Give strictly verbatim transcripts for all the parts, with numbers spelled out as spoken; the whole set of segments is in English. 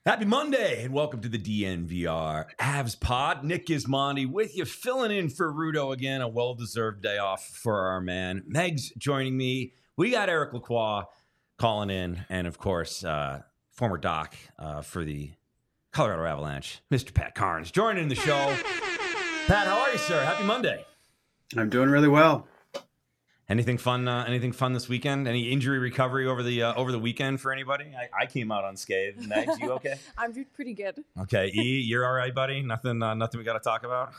Happy Monday and welcome to the D N V R Avs Pod. Nick Gismondi with you, filling in for Rudo again. A well-deserved day off for our man. Meg's joining me. We got Eric Lacroix calling in, and of course, uh, former doc uh, for the Colorado Avalanche, Mister Pat Carnes, joining the show. Pat, how are you, sir? Happy Monday. I'm doing really well. Anything fun? Uh, anything fun this weekend? Any injury recovery over the uh, over the weekend for anybody? I, I came out unscathed. Megs, you okay? I'm doing pretty good. Okay, E, you're all right, buddy. Nothing. Uh, nothing we got to talk about.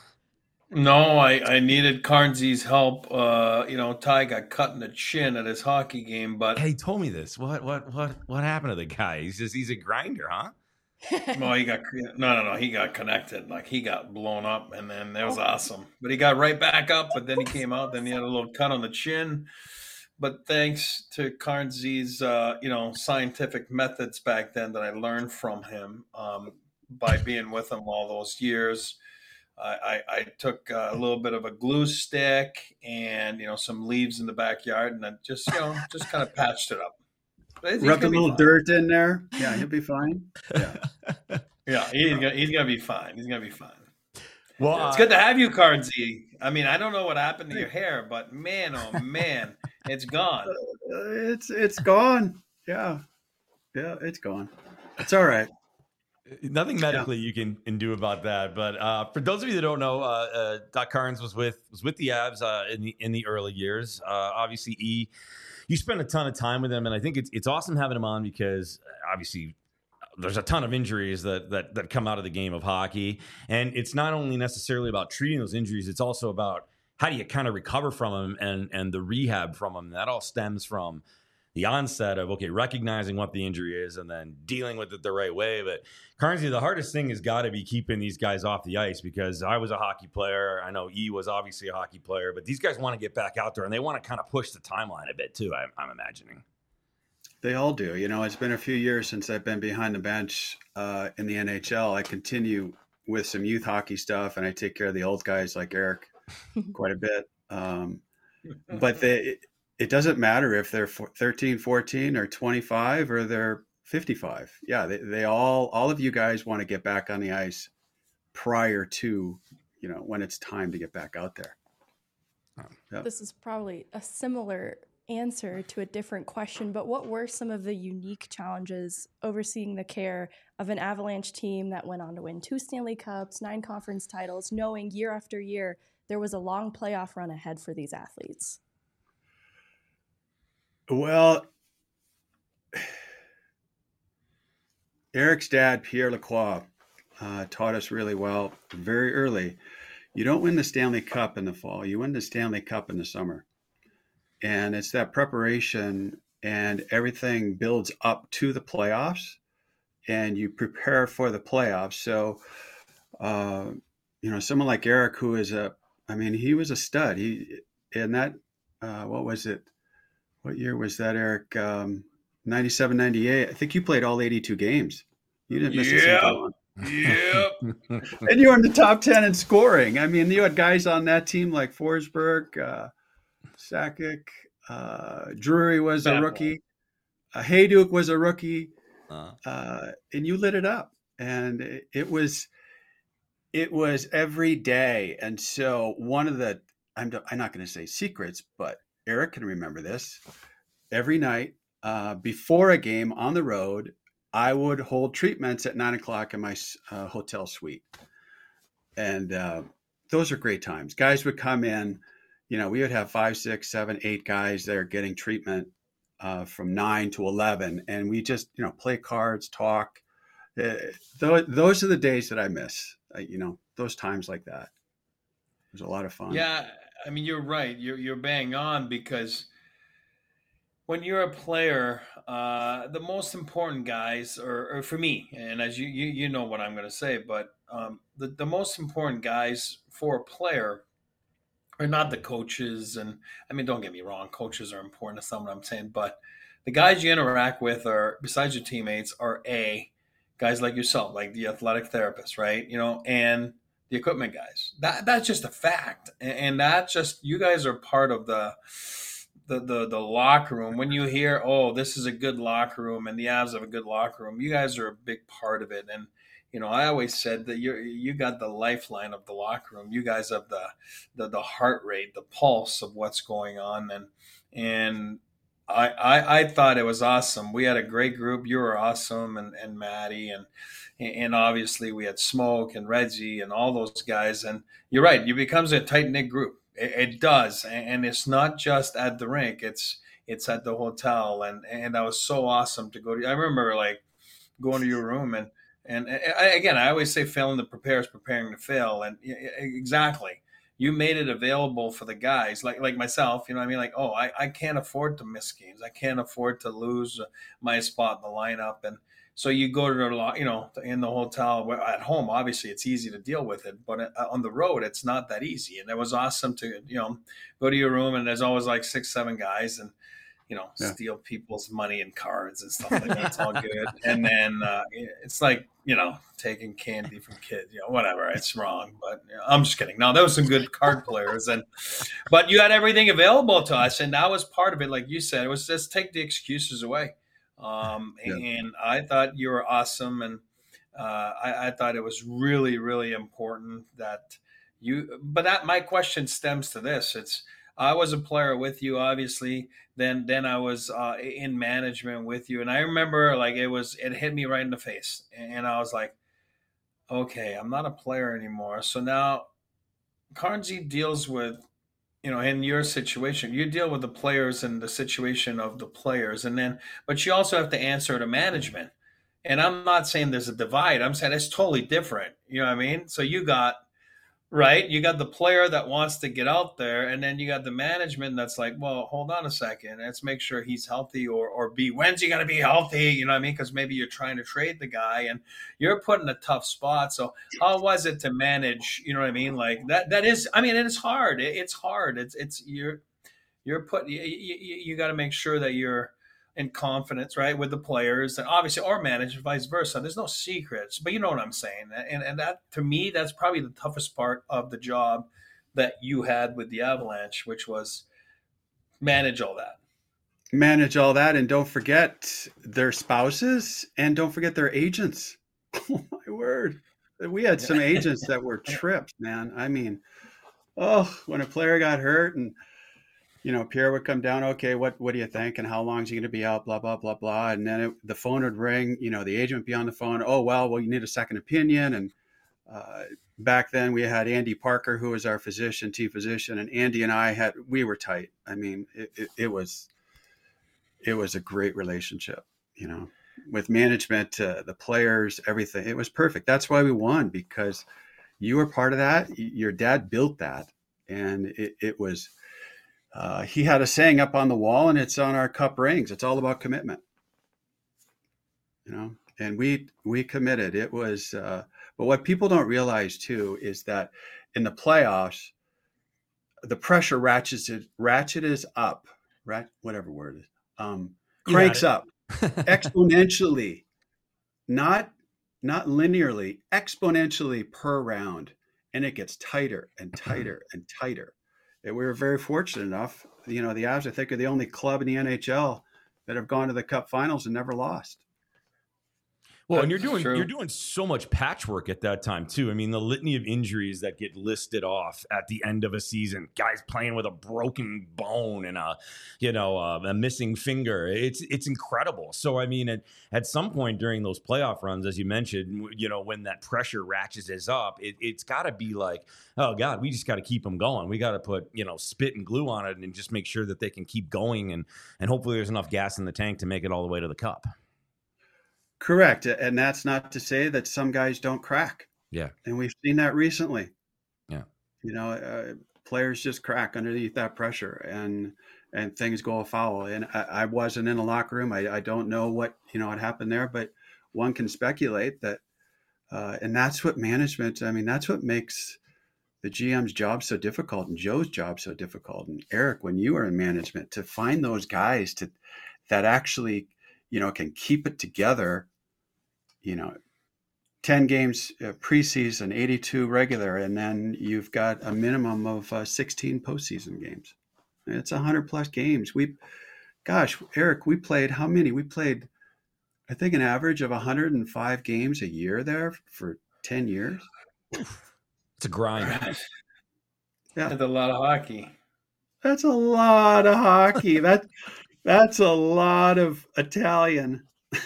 No, I, I needed Carnsy's help. Uh, you know, Ty got cut in the chin at his hockey game, but Hey, he told me this. What what what what happened to the guy? He's just he's a grinder, huh? no, he got no, no, no. He got connected. Like he got blown up, and then that was awesome. But he got right back up. But then he came out. Then he had a little cut on the chin. But thanks to Carnsy's, uh, you know, scientific methods back then that I learned from him um, by being with him all those years. I, I, I took a little bit of a glue stick and, you know, some leaves in the backyard, and I just, you know, just kind of patched it up. Rubbed a little dirt in there. Yeah, he'll be fine. Yeah, yeah, he's gonna, he's gonna be fine. He's gonna be fine. Well, yeah, it's uh, good to have you, Cardsy. I mean, I don't know what happened to your hair, but man, oh man, it's gone. Uh, it's it's gone. Yeah, yeah, it's gone. It's all right. Nothing medically yeah. you can, can do about that. But uh, for those of you that don't know, uh, uh, Doc Carnes was with was with the Avs uh, in the in the early years. Uh, obviously, E, you spent a ton of time with him, and I think it's it's awesome having him on because obviously there's a ton of injuries that that that come out of the game of hockey, and it's not only necessarily about treating those injuries; it's also about how do you kind of recover from them and and the rehab from them. That all stems from the onset of, okay, recognizing what the injury is and then dealing with it the right way. But Carnesy, the hardest thing has got to be keeping these guys off the ice, because I was a hockey player. I know E was obviously a hockey player, but these guys want to get back out there and they want to kind of push the timeline a bit too, I'm, I'm imagining. They all do. You know, it's been a few years since I've been behind the bench uh, in the N H L. I continue with some youth hockey stuff, and I take care of the old guys like Eric quite a bit. Um, but they... It doesn't matter if they're thirteen, fourteen, or twenty-five, or they're fifty-five. Yeah, they, they all, all of you guys want to get back on the ice prior to, you know, when it's time to get back out there. Yep. This is probably a similar answer to a different question, but what were some of the unique challenges overseeing the care of an Avalanche team that went on to win two Stanley Cups, nine conference titles, knowing year after year there was a long playoff run ahead for these athletes? Well, Eric's dad, Pierre Lacroix, uh, taught us really well very early. You don't win the Stanley Cup in the fall. You win the Stanley Cup in the summer. And it's that preparation, and everything builds up to the playoffs, and you prepare for the playoffs. So, uh, you know, someone like Eric, who is a, I mean, he was a stud. He, in that, uh, what was it? What year was that, Eric? Um, ninety-seven, ninety-eight. I think you played all eighty-two games. You didn't miss yep. a single one. Yep. And you were in the top ten in scoring. I mean, you had guys on that team like Forsberg, uh, Sakic, uh, Drury was a rookie. Uh, Hayduk was a rookie. Uh, uh, and you lit it up. And it, it was it was every day. And so one of the, I'm, I'm not going to say secrets, but Eric can remember this. Every night uh, before a game on the road, I would hold treatments at nine o'clock in my uh, hotel suite. And uh, those are great times. Guys would come in, you know, we would have five, six, seven, eight guys there getting treatment uh, from nine to eleven. And we just, you know, play cards, talk. Uh, th- those are the days that I miss, uh, you know, those times like that. It was a lot of fun. Yeah. I mean, you're right. You're you're bang on, because when you're a player, uh, the most important guys, or, or for me, and as you, you you know what I'm going to say, but um, the the most important guys for a player are not the coaches. And I mean, don't get me wrong, coaches are important. That's not what I'm saying, but the guys you interact with are, besides your teammates, are a guys like yourself, like the athletic therapist, right? You know, and the equipment guys. That that's just a fact, and, and that just, you guys are part of the the, the, the locker room, when you hear, oh, this is a good locker room and the Avs have a good locker room, you guys are a big part of it. And, you know, I always said that you you got the lifeline of the locker room. You guys have the, the, the heart rate, the pulse of what's going on. And, and I, I, I thought it was awesome. We had a great group. You were awesome. And, and Maddie and, and obviously we had Smoke and Reggie and all those guys. And you're right. It becomes a tight knit group. It, it does. And it's not just at the rink. It's, it's at the hotel. And, and that was so awesome to go to. I remember like going to your room and, and I, again, I always say failing to prepare is preparing to fail. And exactly. You made it available for the guys like, like myself, you know what I mean? Like, oh, I, I can't afford to miss games. I can't afford to lose my spot in the lineup. And so you go to the, you know, in the hotel at home, obviously it's easy to deal with it, but on the road, it's not that easy. And it was awesome to, you know, go to your room and there's always like six, seven guys and, you know, yeah. steal people's money and cards and stuff like that. It's all good. And then uh, it's like, you know, taking candy from kids, you know, whatever. It's wrong, but you know, I'm just kidding. No, there was some good card players, and but you had everything available to us, and that was part of it. Like you said, it was just take the excuses away. Um, yeah. And I thought you were awesome, and uh, I, I thought it was really, really important that you. But that my question stems to this: it's I was a player with you, obviously. Then, then I was uh, in management with you, and I remember like it was it hit me right in the face, and I was like, okay, I'm not a player anymore. So now, Carnesy deals with, you know, in your situation, you deal with the players and the situation of the players, and then, but you also have to answer to management. And I'm not saying there's a divide. I'm saying it's totally different. You know what I mean? So you got. Right. You got the player that wants to get out there, and then you got the management that's like, well, hold on a second. Let's make sure he's healthy or, or be, when's he going to be healthy? You know what I mean? Because maybe you're trying to trade the guy and you're put in a tough spot. So how was it to manage? You know what I mean? Like that, that is, I mean, it's hard. It, it's hard. It's, it's, you're, you're put, you, you, you got to make sure that you're in confidence, right, with the players and obviously or manage vice versa. There's no secrets, but you know what I'm saying. And and that to me, that's probably the toughest part of the job that you had with the Avalanche, which was manage all that. Manage all that. And don't forget their spouses and don't forget their agents. Oh my word. We had some agents that were trips, man. I mean, oh, when a player got hurt and you know, Pierre would come down. Okay, what what do you think? And how long is he going to be out? Blah blah blah blah. And then it, the phone would ring. You know, the agent would be on the phone. Oh well, well you need a second opinion. And uh, back then we had Andy Parker, who was our physician, team physician, and Andy and I had we were tight. I mean, it, it, it was it was a great relationship. You know, with management, uh, the players, everything. It was perfect. That's why we won, because you were part of that. Your dad built that, and it, it was. Uh, he had a saying up on the wall, and it's on our cup rings. It's all about commitment, you know. And we we committed. It was, uh, but what people don't realize too is that in the playoffs, the pressure ratchets it ratchets up, right? Whatever word it is, um, cranks up exponentially, not not linearly, exponentially per round, and it gets tighter and tighter and tighter. We were very fortunate enough, you know, the Avs, I think, are the only club in the N H L that have gone to the Cup Finals and never lost. Well, and you're doing you're doing so much patchwork at that time too. I mean, the litany of injuries that get listed off at the end of a season, guys playing with a broken bone and a, you know, uh, a missing finger. It's it's incredible. So I mean, at at some point during those playoff runs, as you mentioned, you know, when that pressure ratchets up, it, it's got to be like, oh God, we just got to keep them going. We got to put, you know, spit and glue on it and just make sure that they can keep going, and and hopefully there's enough gas in the tank to make it all the way to the cup. Correct. And that's not to say that some guys don't crack. Yeah. And we've seen that recently. Yeah. You know, uh, players just crack underneath that pressure and and things go afoul. And I, I wasn't in a locker room. I, I don't know what, you know, what happened there, but one can speculate that. Uh, and that's what management, I mean, that's what makes the G M's job so difficult and Joe's job so difficult. And Eric, when you were in management, to find those guys to that actually, you know, can keep it together, you know, ten games uh, preseason, eighty-two regular, and then you've got a minimum of uh, sixteen postseason games. It's a hundred plus games. We, gosh, Eric, we played how many? We played, I think, an average of one hundred five games a year there for ten years. It's a grind. Yeah, that's a lot of hockey. That's a lot of hockey. That that's a lot of Italian.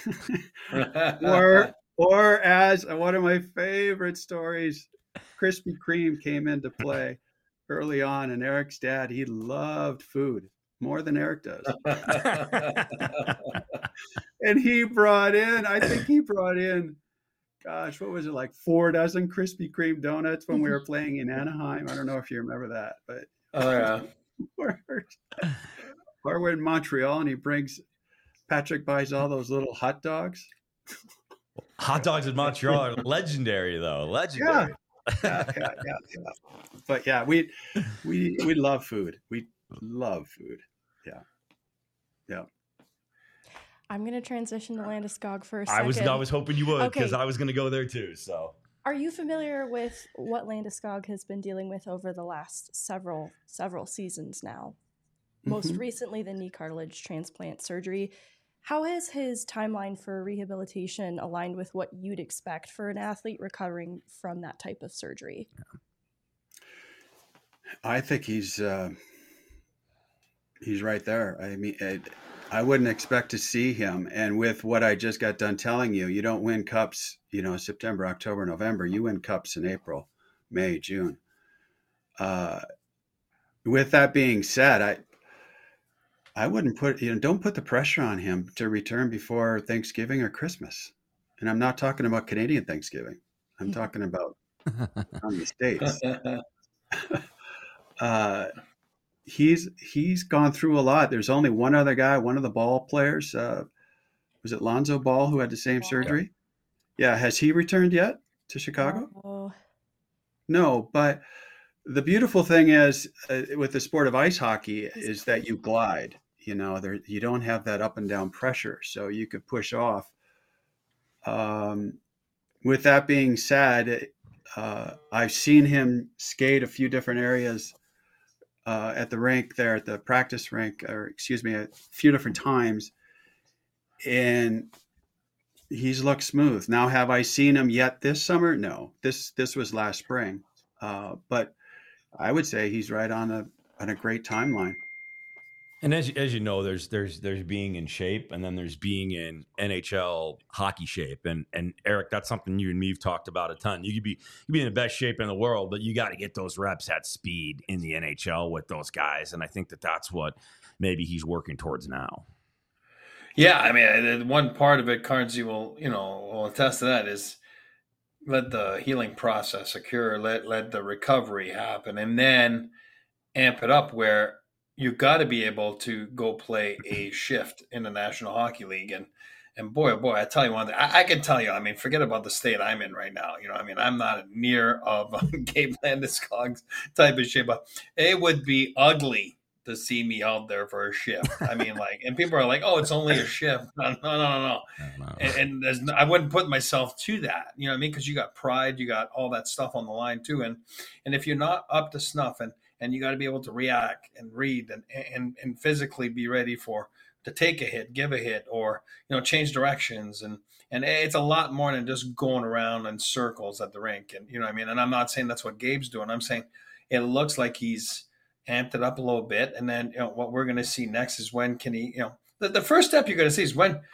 or or as one of my favorite stories, Krispy Kreme came into play early on, and Eric's dad, he loved food more than Eric does. And he brought in, I think he brought in, gosh, what was it, like four dozen Krispy Kreme donuts when we were playing in Anaheim. I don't know if you remember that, but oh yeah. Or, or we're in Montreal and he brings, Patrick buys all those little hot dogs. Hot dogs in Montreal are legendary, though. Legendary. Yeah. Yeah, yeah, yeah, yeah. But yeah, we we we love food. We love food. Yeah. Yeah. I'm going to transition to Landeskog for a I second. was I was hoping you would, because Okay. I was going to go there too. So, Are you familiar with what Landeskog has been dealing with over the last several several seasons now? Most Mhm. recently, the knee cartilage transplant surgery. How has his timeline for rehabilitation aligned with what you'd expect for an athlete recovering from that type of surgery? I think he's uh, he's right there. I mean, I, I wouldn't expect to see him. And with what I just got done telling you, you don't win cups, you know, September, October, November. You win cups in April, May, June. Uh, with that being said, I I wouldn't put, you know, don't put the pressure on him to return before Thanksgiving or Christmas. And I'm not talking about Canadian Thanksgiving. I'm talking about on the States. uh, he's he's gone through a lot. There's only one other guy, one of the Ball players. Uh, was it Lonzo Ball who had the same surgery? Yeah. Has he returned yet to Chicago? Oh. No, but the beautiful thing is uh, with the sport of ice hockey is that you glide. You know, there you don't have that up and down pressure, so you could push off. Um, with that being said, uh, I've seen him skate a few different areas uh, at the rink there, at the practice rink, or excuse me, a few different times, and he's looked smooth. Now, have I seen him yet this summer? No, this this was last spring, uh, but I would say he's right on a on a great timeline. And as as you know, there's there's there's being in shape, and then there's being in N H L hockey shape. And and Eric, that's something you and me have talked about a ton. You could be you could be in the best shape in the world, but you got to get those reps at speed in the N H L with those guys. And I think that that's what maybe he's working towards now. Yeah, I mean, one part of it, Carnesy will you know will attest to that, is let the healing process occur, let let the recovery happen, and then amp it up where you got to be able to go play a shift in the National Hockey League. And, and boy, oh boy, I tell you one thing, I, I can tell you, I mean, forget about the state I'm in right now. You know, I mean, I'm not near of Gabe Landeskog's type of shape, but it would be ugly to see me out there for a shift. I mean, like, and people are like, oh, it's only a shift. No, no, no, no, no. no. And, and there's, no, I wouldn't put myself to that. You know what I mean? Because you got pride, you got all that stuff on the line too. And, and if you're not up to snuff, and, and you got to be able to react and read and, and and physically be ready for to take a hit, give a hit, or you know change directions, and and it's a lot more than just going around in circles at the rink. And you know what I mean. And I'm not saying that's what Gabe's doing. I'm saying it looks like he's amped it up a little bit. And then you know what we're going to see next is when can he you know the, the first step you're going to see is when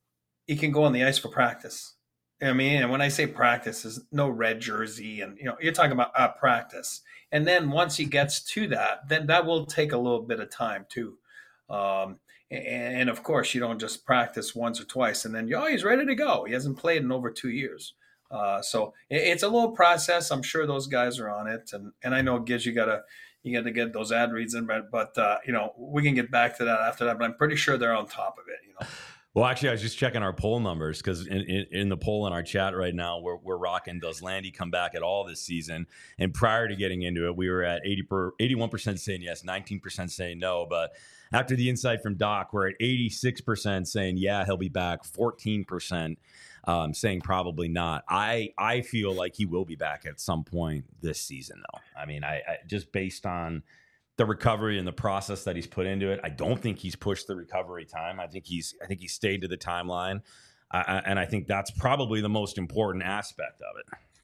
he can go on the ice for practice. You know what I mean, and when I say practice, is no red jersey, and you know you're talking about uh, practice. And then once he gets to that, then that will take a little bit of time too. Um, and, and of course, you don't just practice once or twice and then, oh, he's ready to go. He hasn't played in over two years. Uh, so it, it's a little process. I'm sure those guys are on it. And, and I know, Giz, you got to you got to get those ad reads in, but, but uh, you know, we can get back to that after that. But I'm pretty sure they're on top of it, you know. Well, actually, I was just checking our poll numbers because in, in, in the poll in our chat right now, we're, we're rocking, does Landy come back at all this season? And prior to getting into it, we were at eighty per, eighty-one percent saying yes, nineteen percent saying no. But after the insight from Doc, we're at eighty-six percent saying, yeah, he'll be back, fourteen percent um, saying probably not. I, I feel like he will be back at some point this season, though. I mean, I, I just based on the recovery and the process that he's put into it. I don't think he's pushed the recovery time. I think he's I think he stayed to the timeline, uh, and I think that's probably the most important aspect of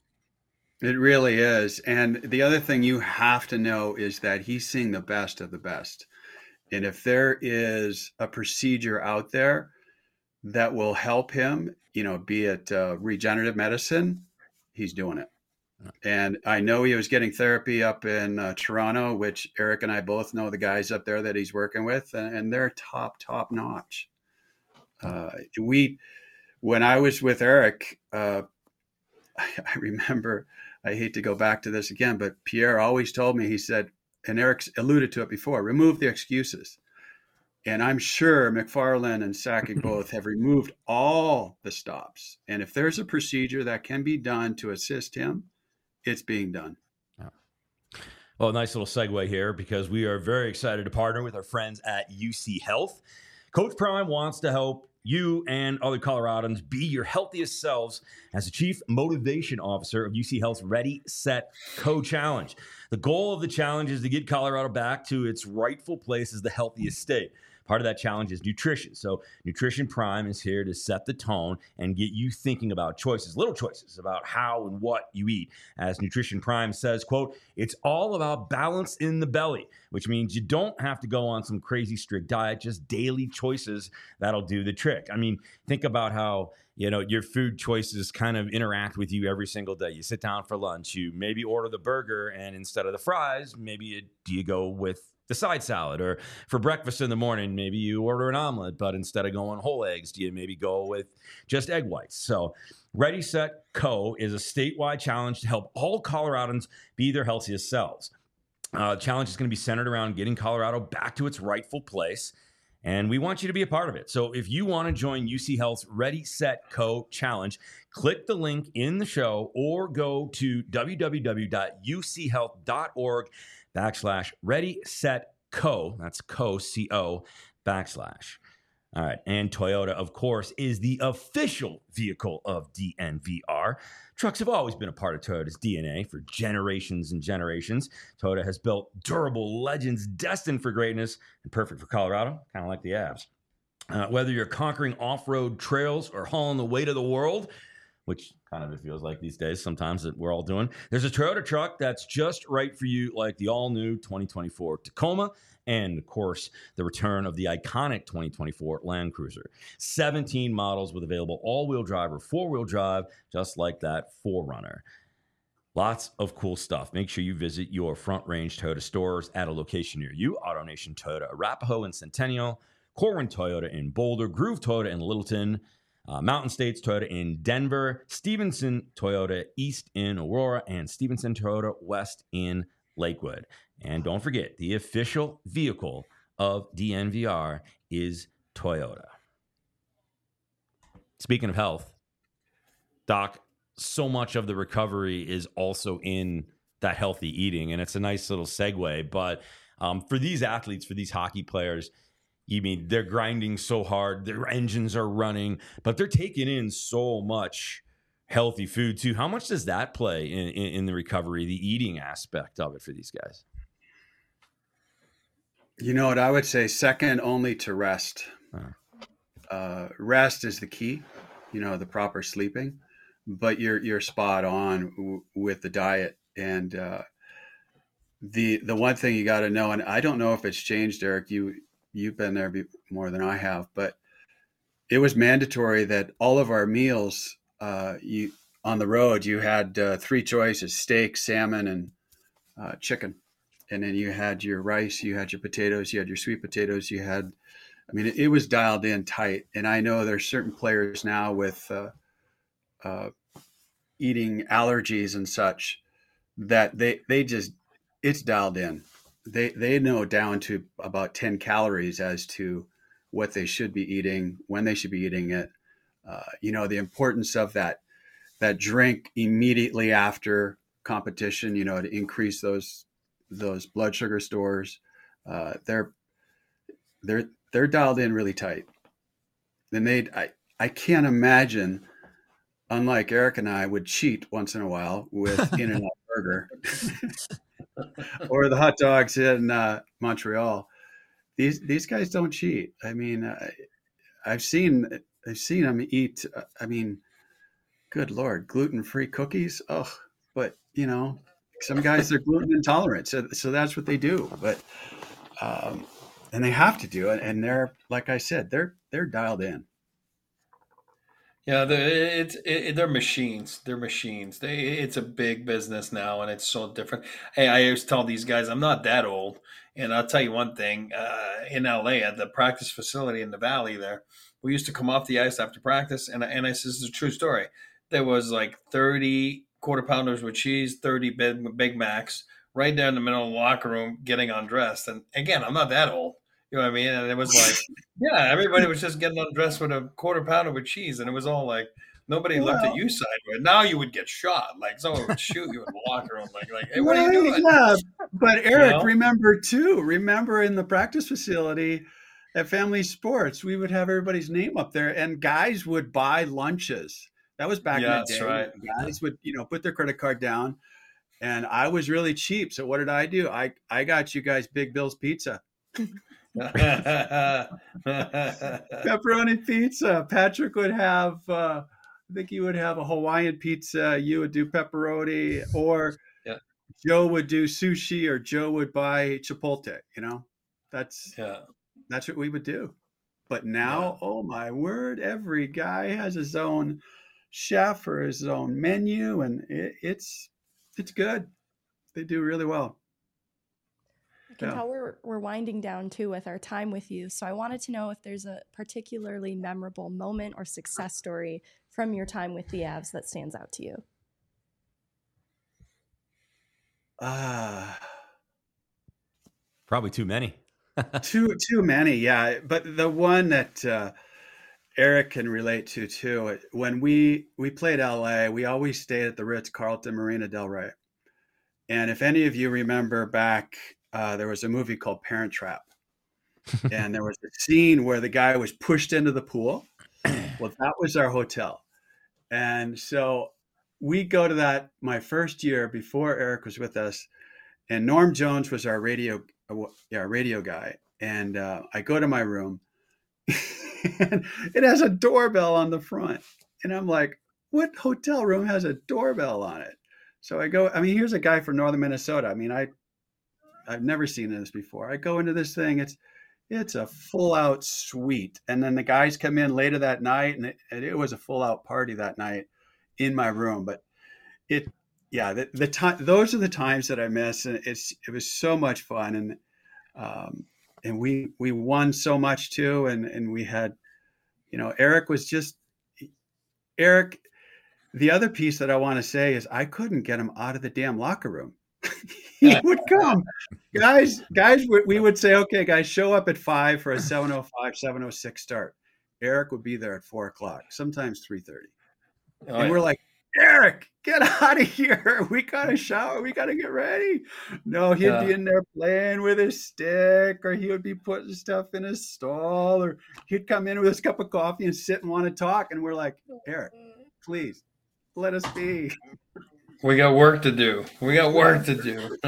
it. It really is. And the other thing you have to know is that he's seeing the best of the best. And if there is a procedure out there that will help him, you know, be it uh, regenerative medicine, he's doing it. And I know he was getting therapy up in uh, Toronto, which Eric and I both know the guys up there that he's working with, and, and they're top, top notch. Uh, we, when I was with Eric, uh, I, I remember, I hate to go back to this again, but Pierre always told me, he said, and Eric's alluded to it before, remove the excuses. And I'm sure McFarland and Sakic both have removed all the stops. And if there's a procedure that can be done to assist him, it's being done. Yeah. Well, nice little segue here, because we are very excited to partner with our friends at U C Health. Coach Prime wants to help you and other Coloradans be your healthiest selves as the Chief Motivation Officer of U C Health's Ready, Set, Co Challenge. The goal of the challenge is to get Colorado back to its rightful place as the healthiest state. Part of that challenge is nutrition. So Nutrition Prime is here to set the tone and get you thinking about choices, little choices about how and what you eat. As Nutrition Prime says, quote, it's all about balance in the belly, which means you don't have to go on some crazy strict diet, just daily choices that'll do the trick. I mean, think about how, you know, your food choices kind of interact with you every single day. You sit down for lunch, you maybe order the burger, and instead of the fries, maybe you, do you go with the side salad? Or for breakfast in the morning, maybe you order an omelet, but instead of going whole eggs, do you maybe go with just egg whites? So Ready, Set, Co is a statewide challenge to help all Coloradans be their healthiest selves. Uh, the challenge is going to be centered around getting Colorado back to its rightful place, and we want you to be a part of it. So if you want to join U C Health's Ready, Set, Co challenge, click the link in the show or go to w w w dot u c health dot org backslash ready, set, co. That's co, C O, backslash. All right. And Toyota, of course, is the official vehicle of D N V R. Trucks have always been a part of Toyota's D N A for generations and generations. Toyota has built durable legends destined for greatness and perfect for Colorado, kind of like the Avs. Uh, whether you're conquering off-road trails or hauling the weight of the world, which kind of it feels like these days sometimes that we're all doing, there's a Toyota truck that's just right for you, like the all-new twenty twenty-four Tacoma and, of course, the return of the iconic twenty twenty-four Land Cruiser. seventeen models with available all-wheel drive or four-wheel drive, just like that four runner. Lots of cool stuff. Make sure you visit your Front Range Toyota stores at a location near you. AutoNation Toyota Arapahoe and Centennial, Corwin Toyota in Boulder, Groove Toyota in Littleton, Uh, Mountain States Toyota in Denver, Stevenson Toyota East in Aurora, and Stevenson Toyota West in Lakewood. And don't forget, the official vehicle of D N V R is Toyota. Speaking of health, Doc, so much of the recovery is also in that healthy eating, and it's a nice little segue. But um, for these athletes, for these hockey players, you mean they're grinding so hard, their engines are running, but they're taking in so much healthy food too. How much does that play in, in, in the recovery, the eating aspect of it for these guys? You know what I would say, second only to rest. Uh, uh, rest is the key, you know, the proper sleeping, but you're, you're spot on w- with the diet. And uh, the, the one thing you got to know, and I don't know if it's changed, Eric, you, you've been there more than I have, but it was mandatory that all of our meals, uh, you on the road, you had uh, three choices: steak, salmon, and uh, chicken. And then you had your rice, you had your potatoes, you had your sweet potatoes, you had, I mean, it, it was dialed in tight. And I know there's certain players now with uh, uh, eating allergies and such that they, they just, it's dialed in. They they know down to about ten calories as to what they should be eating, when they should be eating it. Uh, you know, the importance of that that drink immediately after competition, you know, to increase those those blood sugar stores. Uh, they're they're they're dialed in really tight. And they I, I can't imagine, unlike Eric and I, would cheat once in a while with In-N-Out Burger. or the hot dogs in uh, Montreal. These these guys don't cheat. I mean, I, I've seen I've seen them eat. Uh, I mean, good Lord, gluten-free cookies. Oh, but you know, some guys are gluten intolerant, so so that's what they do. But um, and they have to do it, and they're like I said, they're they're dialed in. Yeah, the, it's it, they're machines. They're machines. They it's a big business now, and it's so different. Hey, I always tell these guys I'm not that old, and I'll tell you one thing. Uh, in L A, at the practice facility in the Valley, there, we used to come off the ice after practice, and and I says this is a true story. There was like thirty quarter pounders with cheese, thirty Big Big Macs, right there in the middle of the locker room, getting undressed. And again, I'm not that old. You know what I mean? And it was like, yeah, everybody was just getting undressed with a quarter pounder with cheese, and it was all like nobody well, looked at you sideways. Now you would get shot, like someone would shoot you in the locker room, like, like, hey, what right, are you doing? Yeah, but Eric, you know? remember too. Remember in the practice facility at Family Sports, we would have everybody's name up there, and guys would buy lunches. That was back yeah, in the day. That's right. Guys would, you know, put their credit card down, and I was really cheap. So what did I do? I I got you guys Big Bill's Pizza. Pepperoni pizza. Patrick would have, uh, I think he would have a Hawaiian pizza. You would do pepperoni, or yeah. Joe would do sushi, or Joe would buy Chipotle. You know, that's yeah, that's what we would do. But now, yeah. oh my word, every guy has his own chef or his own menu, and it, it's it's good. They do really well. I can yeah. tell we're we're winding down too with our time with you. So I wanted to know if there's a particularly memorable moment or success story from your time with the Avs that stands out to you. Uh, Probably too many. too too many, yeah. But the one that uh, Eric can relate to too. When we we played L A, we always stayed at the Ritz-Carlton Marina Del Rey. And if any of you remember back, uh, there was a movie called Parent Trap. And there was a scene where the guy was pushed into the pool. Well, that was our hotel. And so we go to that my first year before Eric was with us. And Norm Jones was our radio, uh, yeah, radio guy. And uh, I go to my room. And it has a doorbell on the front. And I'm like, what hotel room has a doorbell on it? So I go, I mean, here's a guy from northern Minnesota. I mean, I, I've never seen this before. I go into this thing. It's, it's a full out suite. And then the guys come in later that night, and it, it was a full out party that night in my room. But it, yeah, the, the time, those are the times that I miss. And it's, it was so much fun. And, um, and we, we won so much too. And, and we had, you know, Eric was just, Eric, the other piece that I want to say is I couldn't get him out of the damn locker room. He would come. Guys, guys, we would say, okay, guys, show up at five for a seven oh five, seven oh six start. Eric would be there at four o'clock, sometimes three thirty. Oh, and yeah. We're like, Eric, get out of here. We got to shower. We got to get ready. No, he'd yeah. be in there playing with his stick, or he would be putting stuff in his stall, or he'd come in with his cup of coffee and sit and want to talk. And we're like, Eric, please let us be. We got work to do. We got work to do.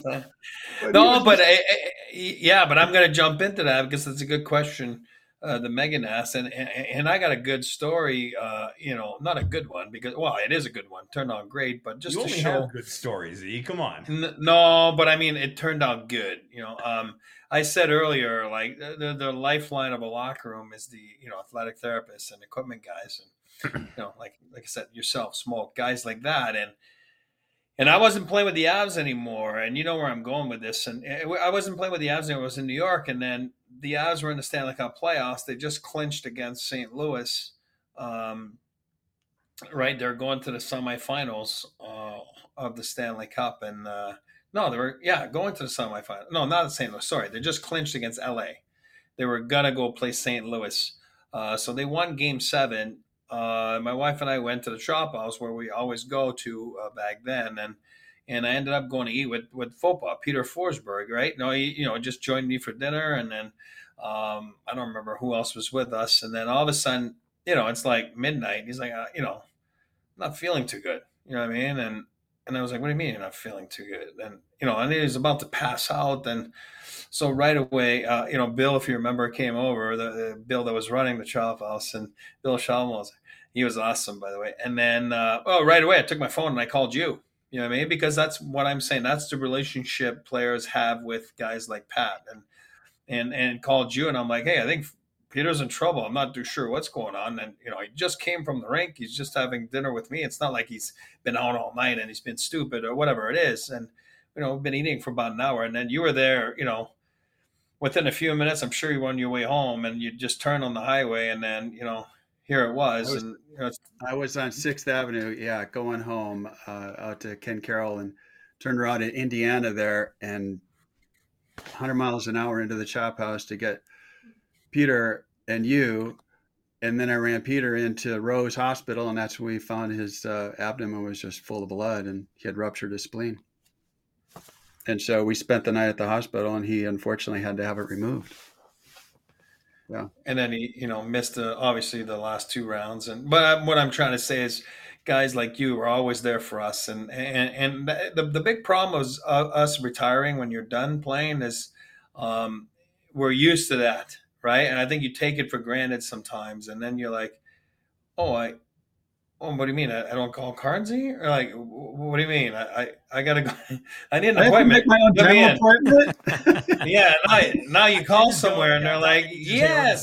No, but I, I, yeah, but I'm going to jump into that because it's a good question. Uh, the Megan asked, and, and and I got a good story. Uh, you know, not a good one because well, it is a good one. Turned out great, but just you to only show have good stories. E, come on. N- no, but I mean, it turned out good. You know, um, I said earlier, like the the lifeline of a locker room is the you know athletic therapists and equipment guys, and you know, like like I said, yourself, Smoke, guys like that, and. And I wasn't playing with the Avs anymore, and you know where I'm going with this. And I wasn't playing with the Avs anymore. I was in New York, and then the Avs were in the Stanley Cup playoffs. They just clinched against Saint Louis. Um, right, they're going to the semifinals uh, of the Stanley Cup, and uh, no, they were yeah going to the semifinals. No, not Saint Louis. Sorry, they just clinched against L A. They were gonna go play Saint Louis, uh, so they won Game Seven. Uh, my wife and I went to the shop house where we always go to uh, back then, and and I ended up going to eat with with Fopa, Peter Forsberg, right? No, he you know just joined me for dinner, and then um, I don't remember who else was with us, and then all of a sudden, you know, it's like midnight. He's like, uh, you know, I'm not feeling too good, you know what I mean? And And I was like, what do you mean you're not feeling too good? And, you know, and he was about to pass out. And so right away, uh, you know, Bill, if you remember, came over, the, the Bill that was running the Chop House, and Bill Shalmos, he was awesome, by the way. And then, uh, oh, right away, I took my phone and I called you. You know what I mean? Because that's what I'm saying. That's the relationship players have with guys like Pat, and and and called you, and I'm like, hey, I think Peter's in trouble. I'm not too sure what's going on. And, you know, he just came from the rink. He's just having dinner with me. It's not like he's been out all night and he's been stupid or whatever it is. And, you know, we've been eating for about an hour. And then you were there, you know, within a few minutes. I'm sure you were on your way home, and you just turned on the highway, and then, you know, here it was. I was, and you know, I was on sixth Avenue, yeah, going home uh, out to Ken Carroll, and turned around in Indiana there, and one hundred miles an hour into the Chop House to get Peter and you. And then I ran Peter into Rose Hospital, and that's when we found his uh, abdomen was just full of blood, and he had ruptured his spleen. And so we spent the night at the hospital, and he unfortunately had to have it removed. Yeah. And then he, you know, missed the, obviously the last two rounds. And, but what I'm trying to say is guys like you are always there for us. And, and, and the, the big problem is uh, us retiring when you're done playing is um, we're used to that. Right. And I think you take it for granted sometimes. And then you're like, oh, I, oh, what do you mean? I, I don't call Cardsy? Or like, what do you mean? I, I, I got to go. I need an I appointment. Have to make my own dental appointment. Yeah. Now, now you call somewhere and they're like, yes.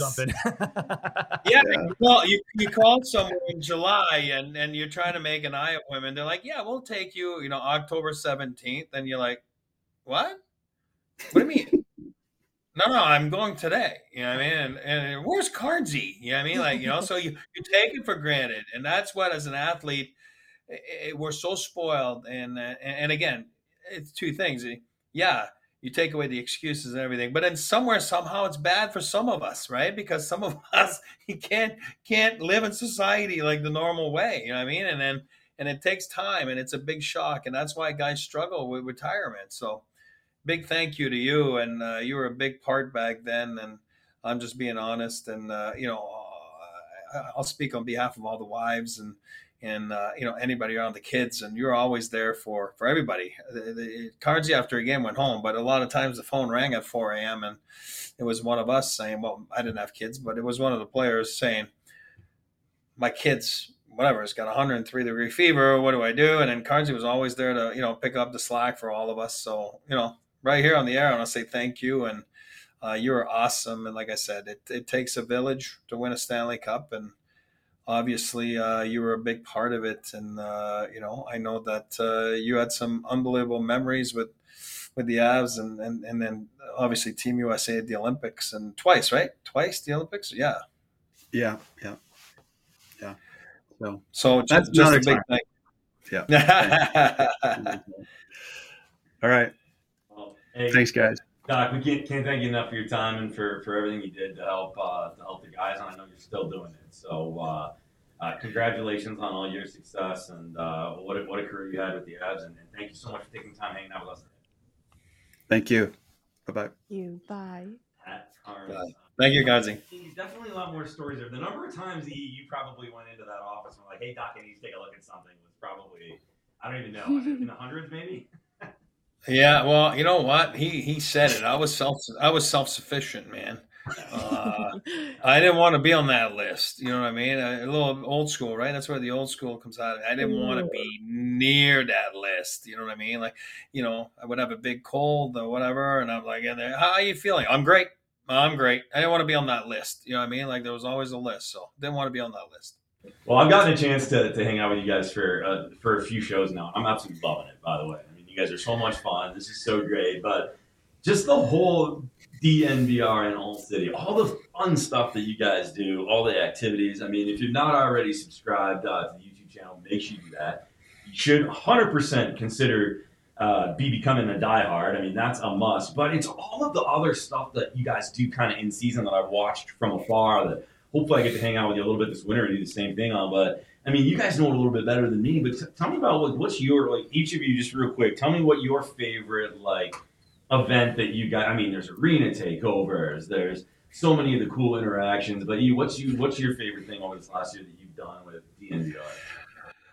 Yeah. You call, you, you call somewhere in July and, and you're trying to make an eye appointment. They're like, yeah, we'll take you, you know, October seventeenth. And you're like, what? What do you mean? No, no, I'm going today. You know what I mean? And, and where's Cardsy? You know what I mean? Like, you know, so you, you take it for granted. And that's what, as an athlete, it, it, we're so spoiled. And, uh, and again, it's two things. Yeah, you take away the excuses and everything, but then somewhere, somehow it's bad for some of us, right? Because some of us, you can't, can't live in society like the normal way. You know what I mean? And then, and it takes time, and it's a big shock. And that's why guys struggle with retirement. So, big thank you to you, and uh, you were a big part back then, and I'm just being honest, and uh, you know, uh, I'll speak on behalf of all the wives and and uh, you know, anybody around the kids, and you're always there for for everybody. The, the Cardsy after a game went home, but a lot of times the phone rang at four a.m. and it was one of us saying, well, I didn't have kids, but it was one of the players saying, my kids, whatever, it's got one hundred three degree fever, what do I do? And then Cardsy was always there to, you know, pick up the slack for all of us. So, you know, right here on the air, I want to say thank you, and uh, you were awesome. And like I said, it, it takes a village to win a Stanley Cup, and obviously uh, you were a big part of it. And uh, you know, I know that uh, you had some unbelievable memories with with the Avs, and and and then obviously Team U S A at the Olympics, and twice, right? Twice the Olympics, yeah, yeah, yeah, yeah. So, so that's just, just a big thing. Yeah. All right. Hey, thanks, guys. Doc, we can't, can't thank you enough for your time and for, for everything you did to help uh, to help the guys, and I know you're still doing it. So, uh, uh, congratulations on all your success, and uh, what a, what a career you had with the Avs, and, and thank you so much for taking the time hanging out with us today. Thank you. Bye bye. You bye. Pat Carnes. Bye. Thank you, Cardsy. Definitely a lot more stories there. The number of times you, you probably went into that office and were like, "Hey, Doc, I need to take a look at something," was probably, I don't even know, in the hundreds maybe. Yeah, well, you know what? He he said it. I was self I was self sufficient, man. Uh, I didn't want to be on that list. You know what I mean? A, a little old school, right? That's where the old school comes out. I didn't want to be near that list. You know what I mean? Like, you know, I would have a big cold or whatever, and I'm like, in there, how are you feeling? I'm great. I'm great. I didn't want to be on that list. You know what I mean? Like, there was always a list, so didn't want to be on that list. Well, I've gotten a chance to, to hang out with you guys for uh, for a few shows now. I'm absolutely loving it, by the way. I mean, you guys are so much fun. This is so great. But just the whole D N V R in All City, all the fun stuff that you guys do, all the activities. I mean, if you're not already subscribed uh, to the YouTube channel, make sure you do that. You should one hundred percent consider uh, be becoming a diehard. I mean, that's a must. But it's all of the other stuff that you guys do kind of in season that I've watched from afar that hopefully I get to hang out with you a little bit this winter and do the same thing on. But, I mean, you guys know it a little bit better than me. But t- tell me about what, what's your, like, each of you, just real quick, tell me what your favorite, like, event that you got. I mean, there's arena takeovers. There's so many of the cool interactions. But you, what's you, what's your favorite thing over this last year that you've done with D N V R?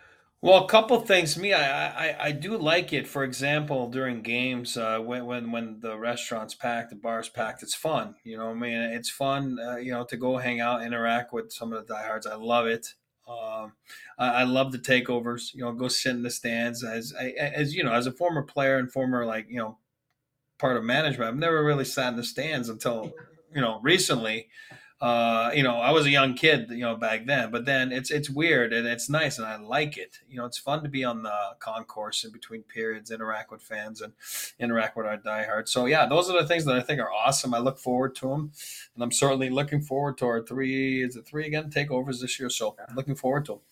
Well, a couple things. Me, I, I I do like it. For example, during games, uh, when when when the restaurant's packed, the bar's packed, it's fun. You know, I mean, it's fun. Uh, you know, to go hang out, interact with some of the diehards. I love it. Um, I, I love the takeovers. You know, go sit in the stands. As I, as you know, as a former player and former like you know part of management, I've never really sat in the stands until you know recently. Uh, you know, I was a young kid, you know, back then, but then it's it's weird and it's nice and I like it. You know, it's fun to be on the concourse in between periods, interact with fans and interact with our diehards. So yeah, those are the things that I think are awesome. I look forward to them, and I'm certainly looking forward to our three. Is it three again? Takeovers this year, so I'm looking forward to them.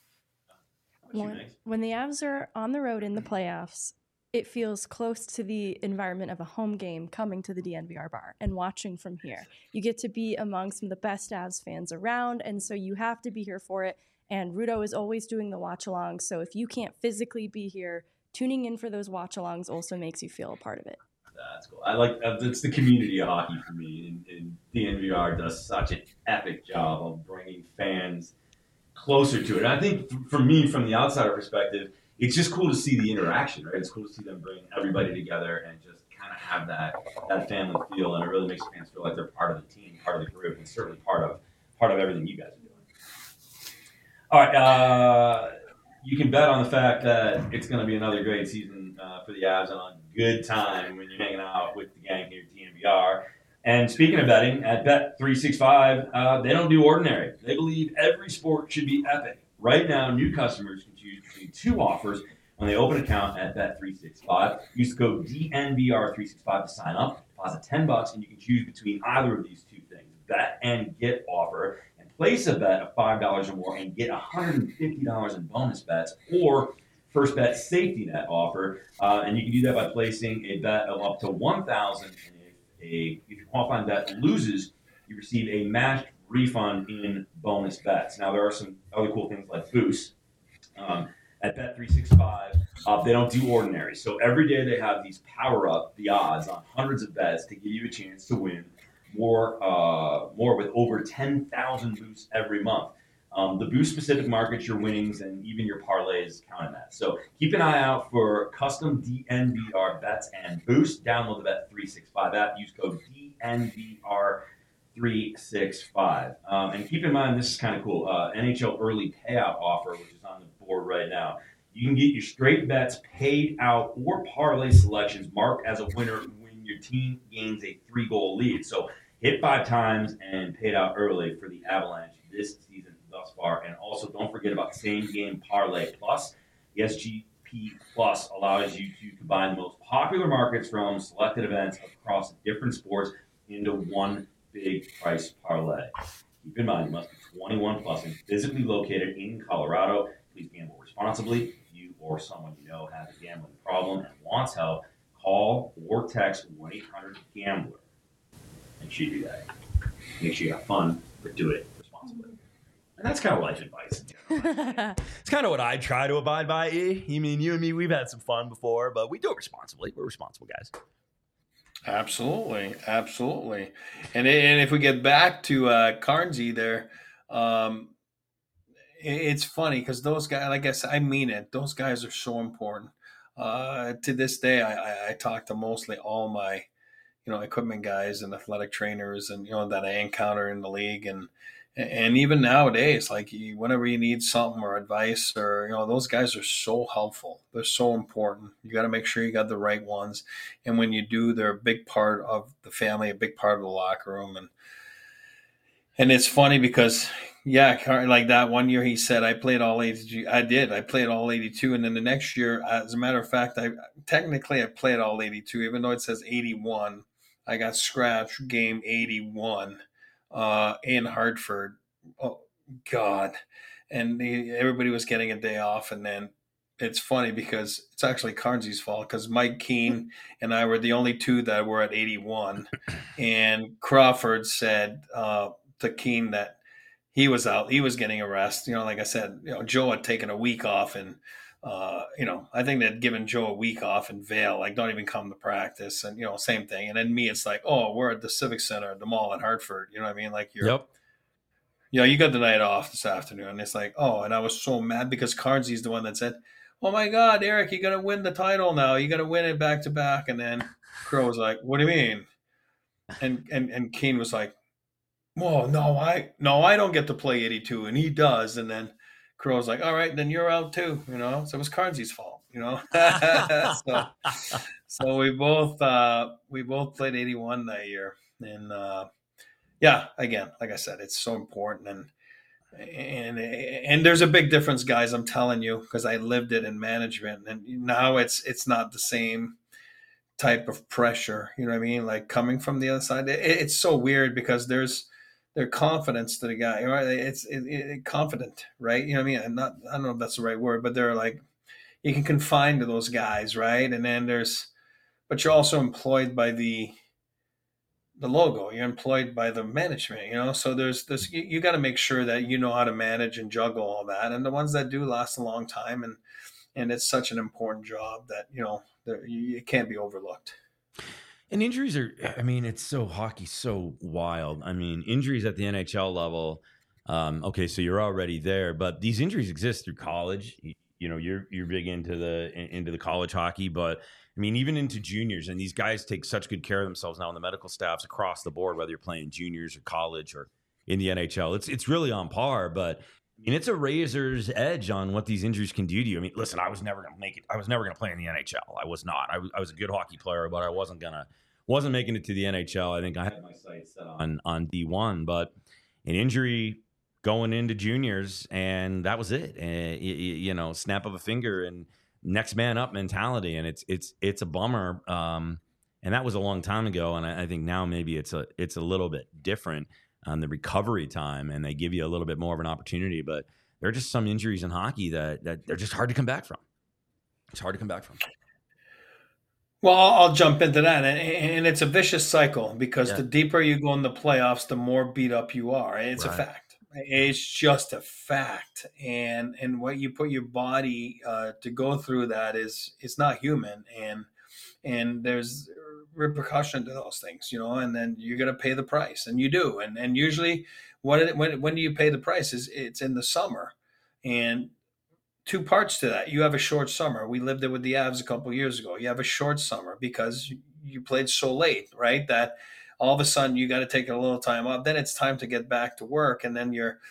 When, when the Avs are on the road in the playoffs, it feels close to the environment of a home game coming to the D N V R bar and watching from here. You get to be among some of the best Avs fans around, and so you have to be here for it. And Rudo is always doing the watch-alongs, so if you can't physically be here, tuning in for those watch-alongs also makes you feel a part of it. That's cool. I like uh, it's the community of hockey for me, and, and D N V R does such an epic job of bringing fans closer to it. And I think for me, from the outsider perspective, it's just cool to see the interaction, right? It's cool to see them bring everybody together and just kind of have that that family feel, and it really makes fans feel like they're part of the team, part of the group, and certainly part of part of everything you guys are doing. All right, uh, you can bet on the fact that it's going to be another great season uh, for the Avs and a good time when you're hanging out with the gang here at D N V R. And speaking of betting, at Bet three sixty-five, uh, they don't do ordinary. They believe every sport should be epic. Right now, new customers can choose between two offers when they open an account at Bet three sixty-five. Use the code D N V R three sixty-five to sign up. Deposit ten bucks, and you can choose between either of these two things, bet and get offer, and place a bet of five dollars or more and get one hundred fifty dollars in bonus bets, or first bet safety net offer. Uh, and you can do that by placing a bet of up to one thousand dollars. And if, a, if your qualifying bet loses, you receive a matched refund in bonus bets. Now, there are some other cool things like boosts. Um, at Bet three sixty-five, uh, they don't do ordinary. So every day they have these power up the odds on hundreds of bets to give you a chance to win more, uh, more with over ten thousand boosts every month. Um, the boost specific markets, your winnings, and even your parlays count in that. So keep an eye out for custom D N V R bets and boosts. Download the Bet three sixty-five app. Use code D N V R three sixty-five. Um, and keep in mind, this is kind of cool. Uh, N H L early payout offer, which is on the board right now. You can get your straight bets paid out or parlay selections marked as a winner when your team gains a three-goal lead. So hit five times and paid out early for the Avalanche this season thus far. And also don't forget about same game parlay plus. The S G P Plus allows you to combine the most popular markets from selected events across different sports into one big price parlay. Keep in mind, you must be twenty-one plus and physically located in Colorado. Please gamble responsibly. If you or someone you know has a gambling problem and wants help, call or text one eight hundred gambler. Make sure you do that. Make sure you have fun, but do it responsibly. And that's kind of life advice. It's kind of what I try to abide by. E. You mean you and me, we've had some fun before, but we do it responsibly. We're responsible guys. Absolutely, absolutely. And and if we get back to uh, Carnesy there, um, it, it's funny because those guys, like I said, I mean it. Those guys are so important. Uh, to this day, I, I, I talk to mostly all my, you know, equipment guys and athletic trainers, and you know that I encounter in the league, and and even nowadays, like you, whenever you need something or advice, or you know, those guys are so helpful. They're so important. You got to make sure you got the right ones, and when you do, they're a big part of the family, a big part of the locker room, and and it's funny because yeah, like that one year he said I played all eighty-two. I did. I played all eighty-two, and then the next year, as a matter of fact, I technically I played all eighty-two, even though it says eighty-one. I got scratched game eighty-one. Uh, in Hartford, oh God, and he, everybody was getting a day off, and then it's funny because it's actually Carnesy's fault because Mike Keane and I were the only two that were at eighty-one, and Crawford said uh, to Keane that he was out, he was getting a rest. You know, like I said, you know, Joe had taken a week off, and uh, you know, I think they'd given Joe a week off in Vail, like don't even come to practice, and you know, same thing. And then me, it's like, oh, we're at the Civic Center, the mall in Hartford. You know what I mean? Like you're, yep. You know, you got the night off this afternoon. And it's like, oh, and I was so mad because Carnesy's the one that said, oh my God, Eric, you're gonna win the title now. You're gonna win it back to back. And then Crow was like, what do you mean? And and and Kane was like, whoa, no, I no, I don't get to play eighty-two, and he does. And then Crow's like, all right, then you're out too, you know. So it was Carnsy's fault, you know. so so we both uh, we both played eighty-one that year, and uh, yeah, again, like I said, it's so important, and and and there's a big difference, guys. I'm telling you, because I lived it in management, and now it's it's not the same type of pressure. You know what I mean? Like coming from the other side, it, it's so weird because there's their confidence to the guy, right? It's it, it, confident, right? You know what I mean? I'm not, I don't know if that's the right word, but they're like, you can confine to those guys, right? And then there's, but you're also employed by the the logo. You're employed by the management, you know. So there's this. You, you got to make sure that you know how to manage and juggle all that. And the ones that do last a long time, and and it's such an important job that you know it can't be overlooked. And injuries are, I mean, it's so hockey's so wild. I mean, injuries at the N H L level. Um, okay, so you're already there, but these injuries exist through college. You, you know, you're you're big into the into the college hockey, but I mean, even into juniors. And these guys take such good care of themselves now in the medical staffs across the board, whether you're playing juniors or college or in the N H L. It's it's really on par, but I mean, it's a razor's edge on what these injuries can do to you. I mean, listen, I was never going to make it. I was never going to play in the N H L. I was not. I was, I was a good hockey player, but I wasn't going to, wasn't making it to the N H L. I think I had my sights set on, on D one, but an injury going into juniors, and that was it. And, you, you know, snap of a finger and next man up mentality. And it's, it's, it's a bummer. Um, and that was a long time ago. And I, I think now maybe it's a, it's a little bit different on the recovery time, and they give you a little bit more of an opportunity. But there are just some injuries in hockey that, that they're just hard to come back from. It's hard to come back from. Well, I'll jump into that. And it's a vicious cycle because Yeah. the deeper you go in the playoffs, the more beat up you are. It's Right. a fact. It's just a fact. And and what you put your body uh, to go through that is it's not human. And and there's repercussion to those things, you know, and then you're going to pay the price, and you do. And and usually what when when do you pay the price? Is it's in the summer. And two parts to that. You have a short summer. We lived it with the Avs a couple of years ago. You have a short summer because you played so late, right? That all of a sudden you got to take a little time off. Then it's time to get back to work, and then you're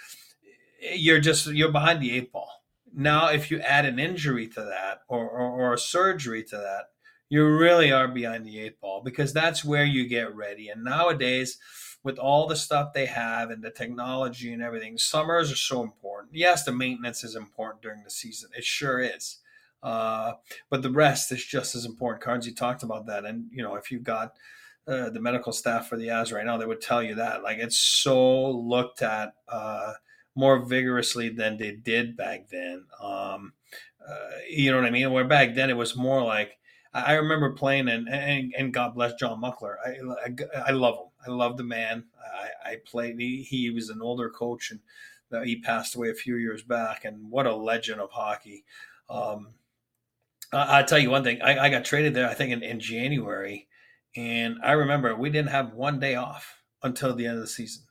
you're just you're behind the eight ball. Now, if you add an injury to that or or, or a surgery to that, you really are behind the eight ball, because that's where you get ready. And nowadays, with all the stuff they have and the technology and everything, summers are so important. Yes, the maintenance is important during the season. It sure is. Uh, but the rest is just as important. Cardsy talked about that. And, you know, if you've got uh, the medical staff for the Avs right now, they would tell you that. Like, it's so looked at uh, more vigorously than they did back then. Um, uh, you know what I mean? Where back then it was more like, I remember playing, and, and, and God bless John Muckler. I, I, I love him. I love the man. I, I played. He, he was an older coach, and uh, he passed away a few years back. And what a legend of hockey! Um, I, I'll tell you one thing. I, I got traded there, I think, in, in January, and I remember we didn't have one day off until the end of the season.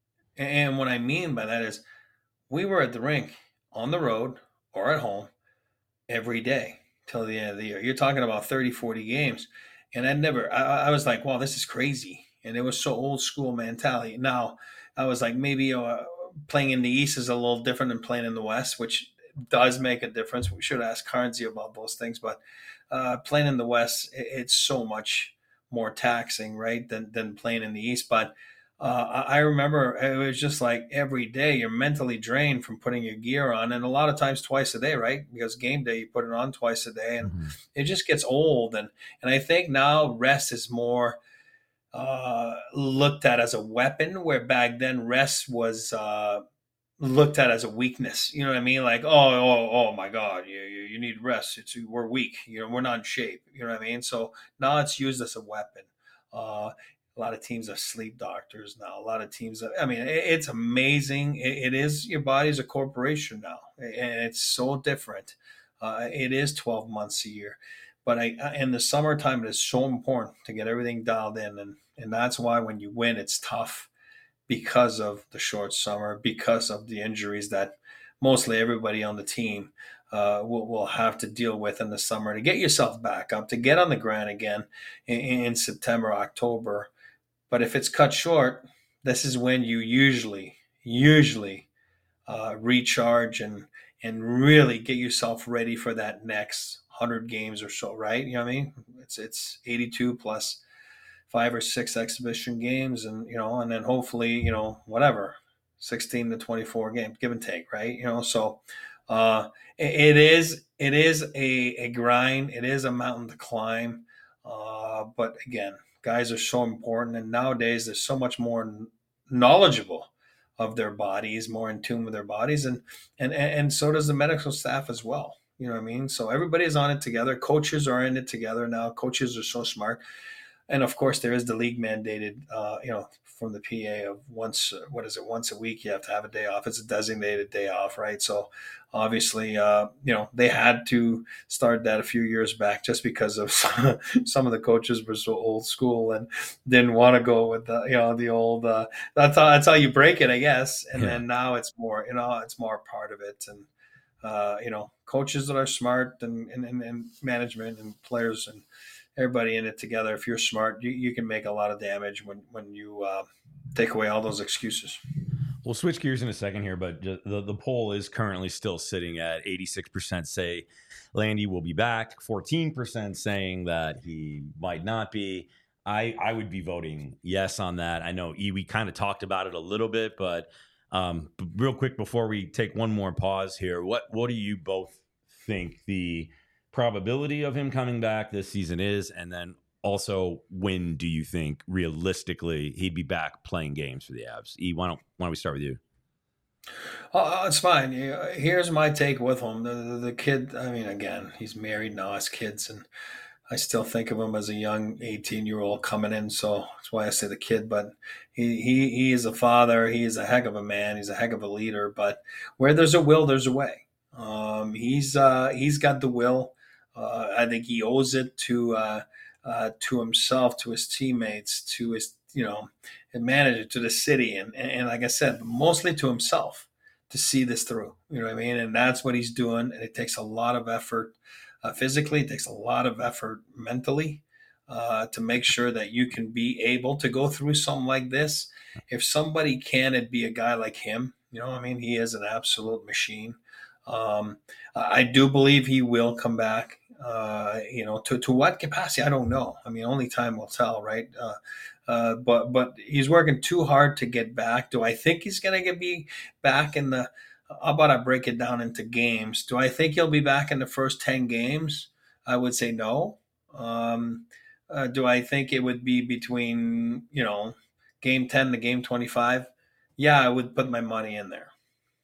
And what I mean by that is, we were at the rink, on the road or at home, every day till the end of the year. You're talking about thirty, forty games. And I never, I, I was like, wow, this is crazy. And it was so old school mentality. Now, I was like, maybe uh, playing in the East is a little different than playing in the West, which does make a difference. We should ask Carnsey about those things. But uh, playing in the West, it, it's so much more taxing, right, than, than playing in the East. But Uh, I remember it was just like every day you're mentally drained from putting your gear on, and a lot of times twice a day, right? Because game day, you put it on twice a day, and mm-hmm. it just gets old. And, and I think now rest is more uh, looked at as a weapon, where back then rest was uh, looked at as a weakness. You know what I mean? Like, oh, oh, oh my God, you, you, you need rest. It's, we're weak. You know, we're not in shape. You know what I mean? So now it's used as a weapon. Uh, A lot of teams have sleep doctors now. A lot of teams, have, I mean, it, it's amazing. It, it is, your body's a corporation now, and it's so different. Uh, it is twelve months a year. But I, in the summertime, it is so important to get everything dialed in. And, and that's why when you win, it's tough, because of the short summer, because of the injuries that mostly everybody on the team uh, will, will have to deal with in the summer to get yourself back up, to get on the grind again in, in September, October. But if it's cut short, this is when you usually, usually uh, recharge and and really get yourself ready for that next one hundred games or so, right? You know what I mean? It's it's eighty-two plus five or six exhibition games, and you know, and then hopefully, you know, whatever, sixteen to twenty-four games, give and take, right? You know, so uh, it, it is it is a, a grind. It is a mountain to climb, uh, but again, guys are so important, and nowadays there's so much more knowledgeable of their bodies, more in tune with their bodies, and and and so does the medical staff as well. You know what I mean? So everybody is on it together. Coaches are in it together now. Coaches are so smart. And of course, there is the league mandated, uh, you know, from the P A of once, what is it, once a week you have to have a day off. It's a designated day off, right? So obviously, uh, you know, they had to start that a few years back just because of some of the coaches were so old school and didn't want to go with the, you know, the old, uh, that's how, that's how you break it, I guess. And yeah. then now it's more, you know, it's more part of it. And, uh, you know, coaches that are smart and, and, and management and players and everybody in it together. If you're smart, you, you can make a lot of damage when, when you uh, take away all those excuses. We'll switch gears in a second here, but the, the poll is currently still sitting at eighty-six percent say Landy will be back, fourteen percent saying that he might not be. I, I would be voting yes on that. I know E, we kind of talked about it a little bit, but um, real quick before we take one more pause here, what what do you both think the probability of him coming back this season is, and then also when do you think realistically he'd be back playing games for the Avs? E, why don't why don't we start with you? Oh, it's fine. Here's my take with him. The, the, the kid, I mean, again, he's married now, has kids, and I still think of him as a young eighteen-year-old coming in, so that's why I say the kid. But he, he, he is a father. He is a heck of a man. He's a heck of a leader. But where there's a will, there's a way. Um, he's uh, he's got the will. Uh, I think he owes it to uh, uh, to himself, to his teammates, to his you know, manager, to the city, and, and and like I said, mostly to himself to see this through. You know what I mean? And that's what he's doing. And it takes a lot of effort uh, physically. It takes a lot of effort mentally uh, to make sure that you can be able to go through something like this. If somebody can, it'd be a guy like him. You know what I mean? He is an absolute machine. Um, I do believe he will come back. Uh, you know, to, to what capacity, I don't know. I mean, only time will tell, right? Uh, uh, but but he's working too hard to get back. Do I think he's going to be back in the – how about I break it down into games? Do I think he'll be back in the first ten games? I would say no. Um, uh, do I think it would be between, you know, game ten to game twenty-five? Yeah, I would put my money in there.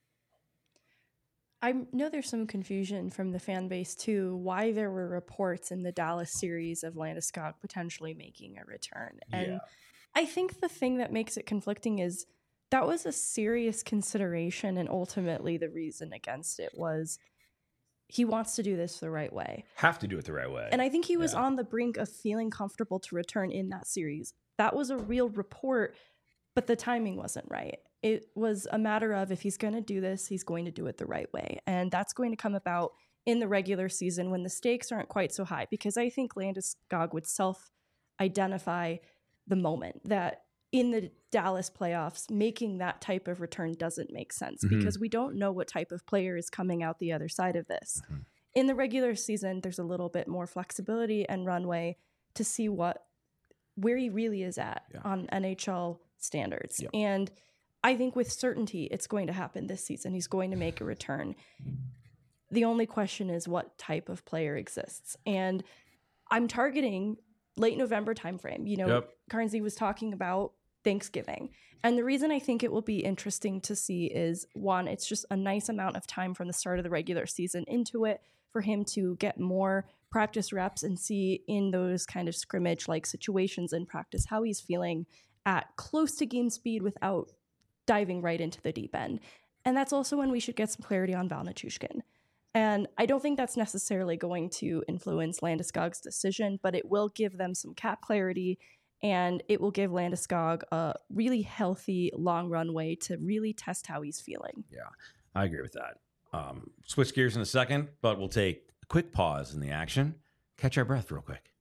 I know there's some confusion from the fan base, too, why there were reports in the Dallas series of Landeskog potentially making a return. And yeah. I think the thing that makes it conflicting is that was a serious consideration, and ultimately the reason against it was he wants to do this the right way. Have to do it the right way. And I think he was yeah. on the brink of feeling comfortable to return in that series. That was a real report, but the timing wasn't right. It was a matter of if he's going to do this, he's going to do it the right way. And that's going to come about in the regular season when the stakes aren't quite so high, because I think Landeskog would self-identify the moment that in the Dallas playoffs, making that type of return doesn't make sense mm-hmm. because we don't know what type of player is coming out the other side of this. Mm-hmm. In the regular season, there's a little bit more flexibility and runway to see what where he really is at yeah. on N H L standards. Yep. And I think with certainty, it's going to happen this season. He's going to make a return. The only question is what type of player exists. And I'm targeting late November timeframe. You know, yep. Carnesy was talking about Thanksgiving. And the reason I think it will be interesting to see is, one, it's just a nice amount of time from the start of the regular season into it for him to get more practice reps and see in those kind of scrimmage-like situations in practice how he's feeling at close to game speed without diving right into the deep end. And that's also when we should get some clarity on Val Nichushkin. And I don't think that's necessarily going to influence Landeskog's decision, but it will give them some cap clarity, and it will give Landeskog a really healthy long runway to really test how he's feeling. Yeah, I agree with that. Um, switch gears in a second, but we'll take a quick pause in the action. Catch our breath real quick.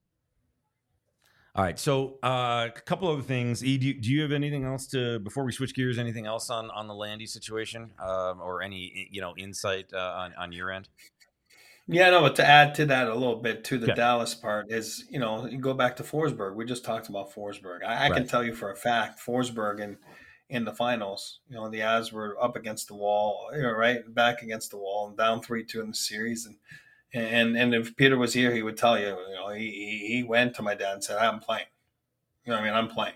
All right, so uh, a couple other things. E, do you, do you have anything else to, before we switch gears, anything else on, on the Landy situation um, or any, you know, insight uh, on, on your end? Yeah, no, but to add to that a little bit to the Okay. Dallas part is, you know, you go back to Forsberg. We just talked about Forsberg. I, I Right. can tell you for a fact, Forsberg in, in the finals, you know, the Avs were up against the wall, you know, right back against the wall and down three two in the series. And and and if Peter was here, he would tell you, you know, he he went to my dad and said, "I'm playing." You know what I mean? I'm playing.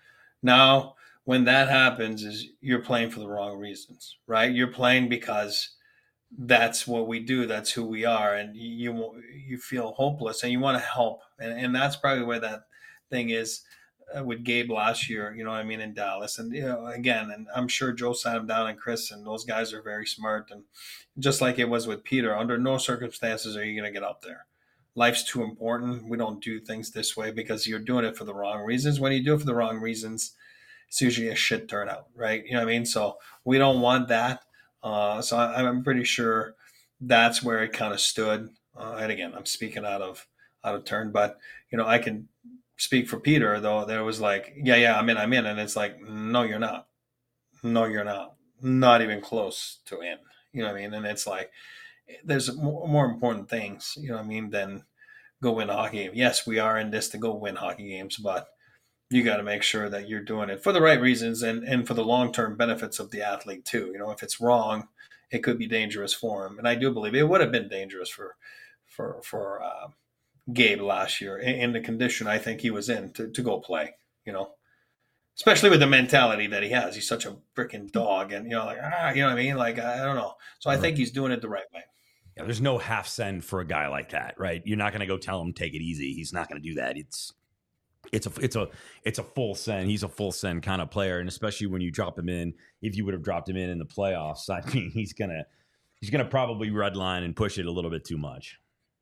Now, when that happens, is you're playing for the wrong reasons, right? You're playing because that's what we do. That's who we are. And you you feel hopeless and you want to help. And, and that's probably where that thing is uh, with Gabe last year, you know what I mean, in Dallas. And, you know, again, and I'm sure Joe sat him down and Chris, and those guys are very smart. And just like it was with Peter, under no circumstances are you going to get up there. Life's too important. We don't do things this way because you're doing it for the wrong reasons. When you do it for the wrong reasons, it's usually a shit turnout, right? You know what I mean? So we don't want that. Uh, so I, I'm pretty sure that's where it kind of stood. Uh, and again, I'm speaking out of out of turn, but you know, I can speak for Peter though. There was like, yeah, yeah, I'm in, I'm in, and it's like, no, you're not. No, you're not. Not even close to in. You know what I mean? And it's like, there's more, more important things. You know what I mean? Than go win a hockey game. Yes, we are in this to go win hockey games, but you got to make sure that you're doing it for the right reasons and, and for the long-term benefits of the athlete too. You know, if it's wrong, it could be dangerous for him. And I do believe it would have been dangerous for, for, for uh, Gabe last year in, in the condition I think he was in to, to go play, you know, especially with the mentality that he has. He's such a freaking dog and, you know, like, ah, you know what I mean? Like, I don't know. So I think he's doing it the right way. Yeah, there's no half send for a guy like that, right? You're not going to go tell him, take it easy. He's not going to do that. It's, It's a it's a it's a full send. He's a full send kind of player, and especially when you drop him in, if you would have dropped him in in the playoffs, I mean, he's gonna he's gonna probably redline and push it a little bit too much.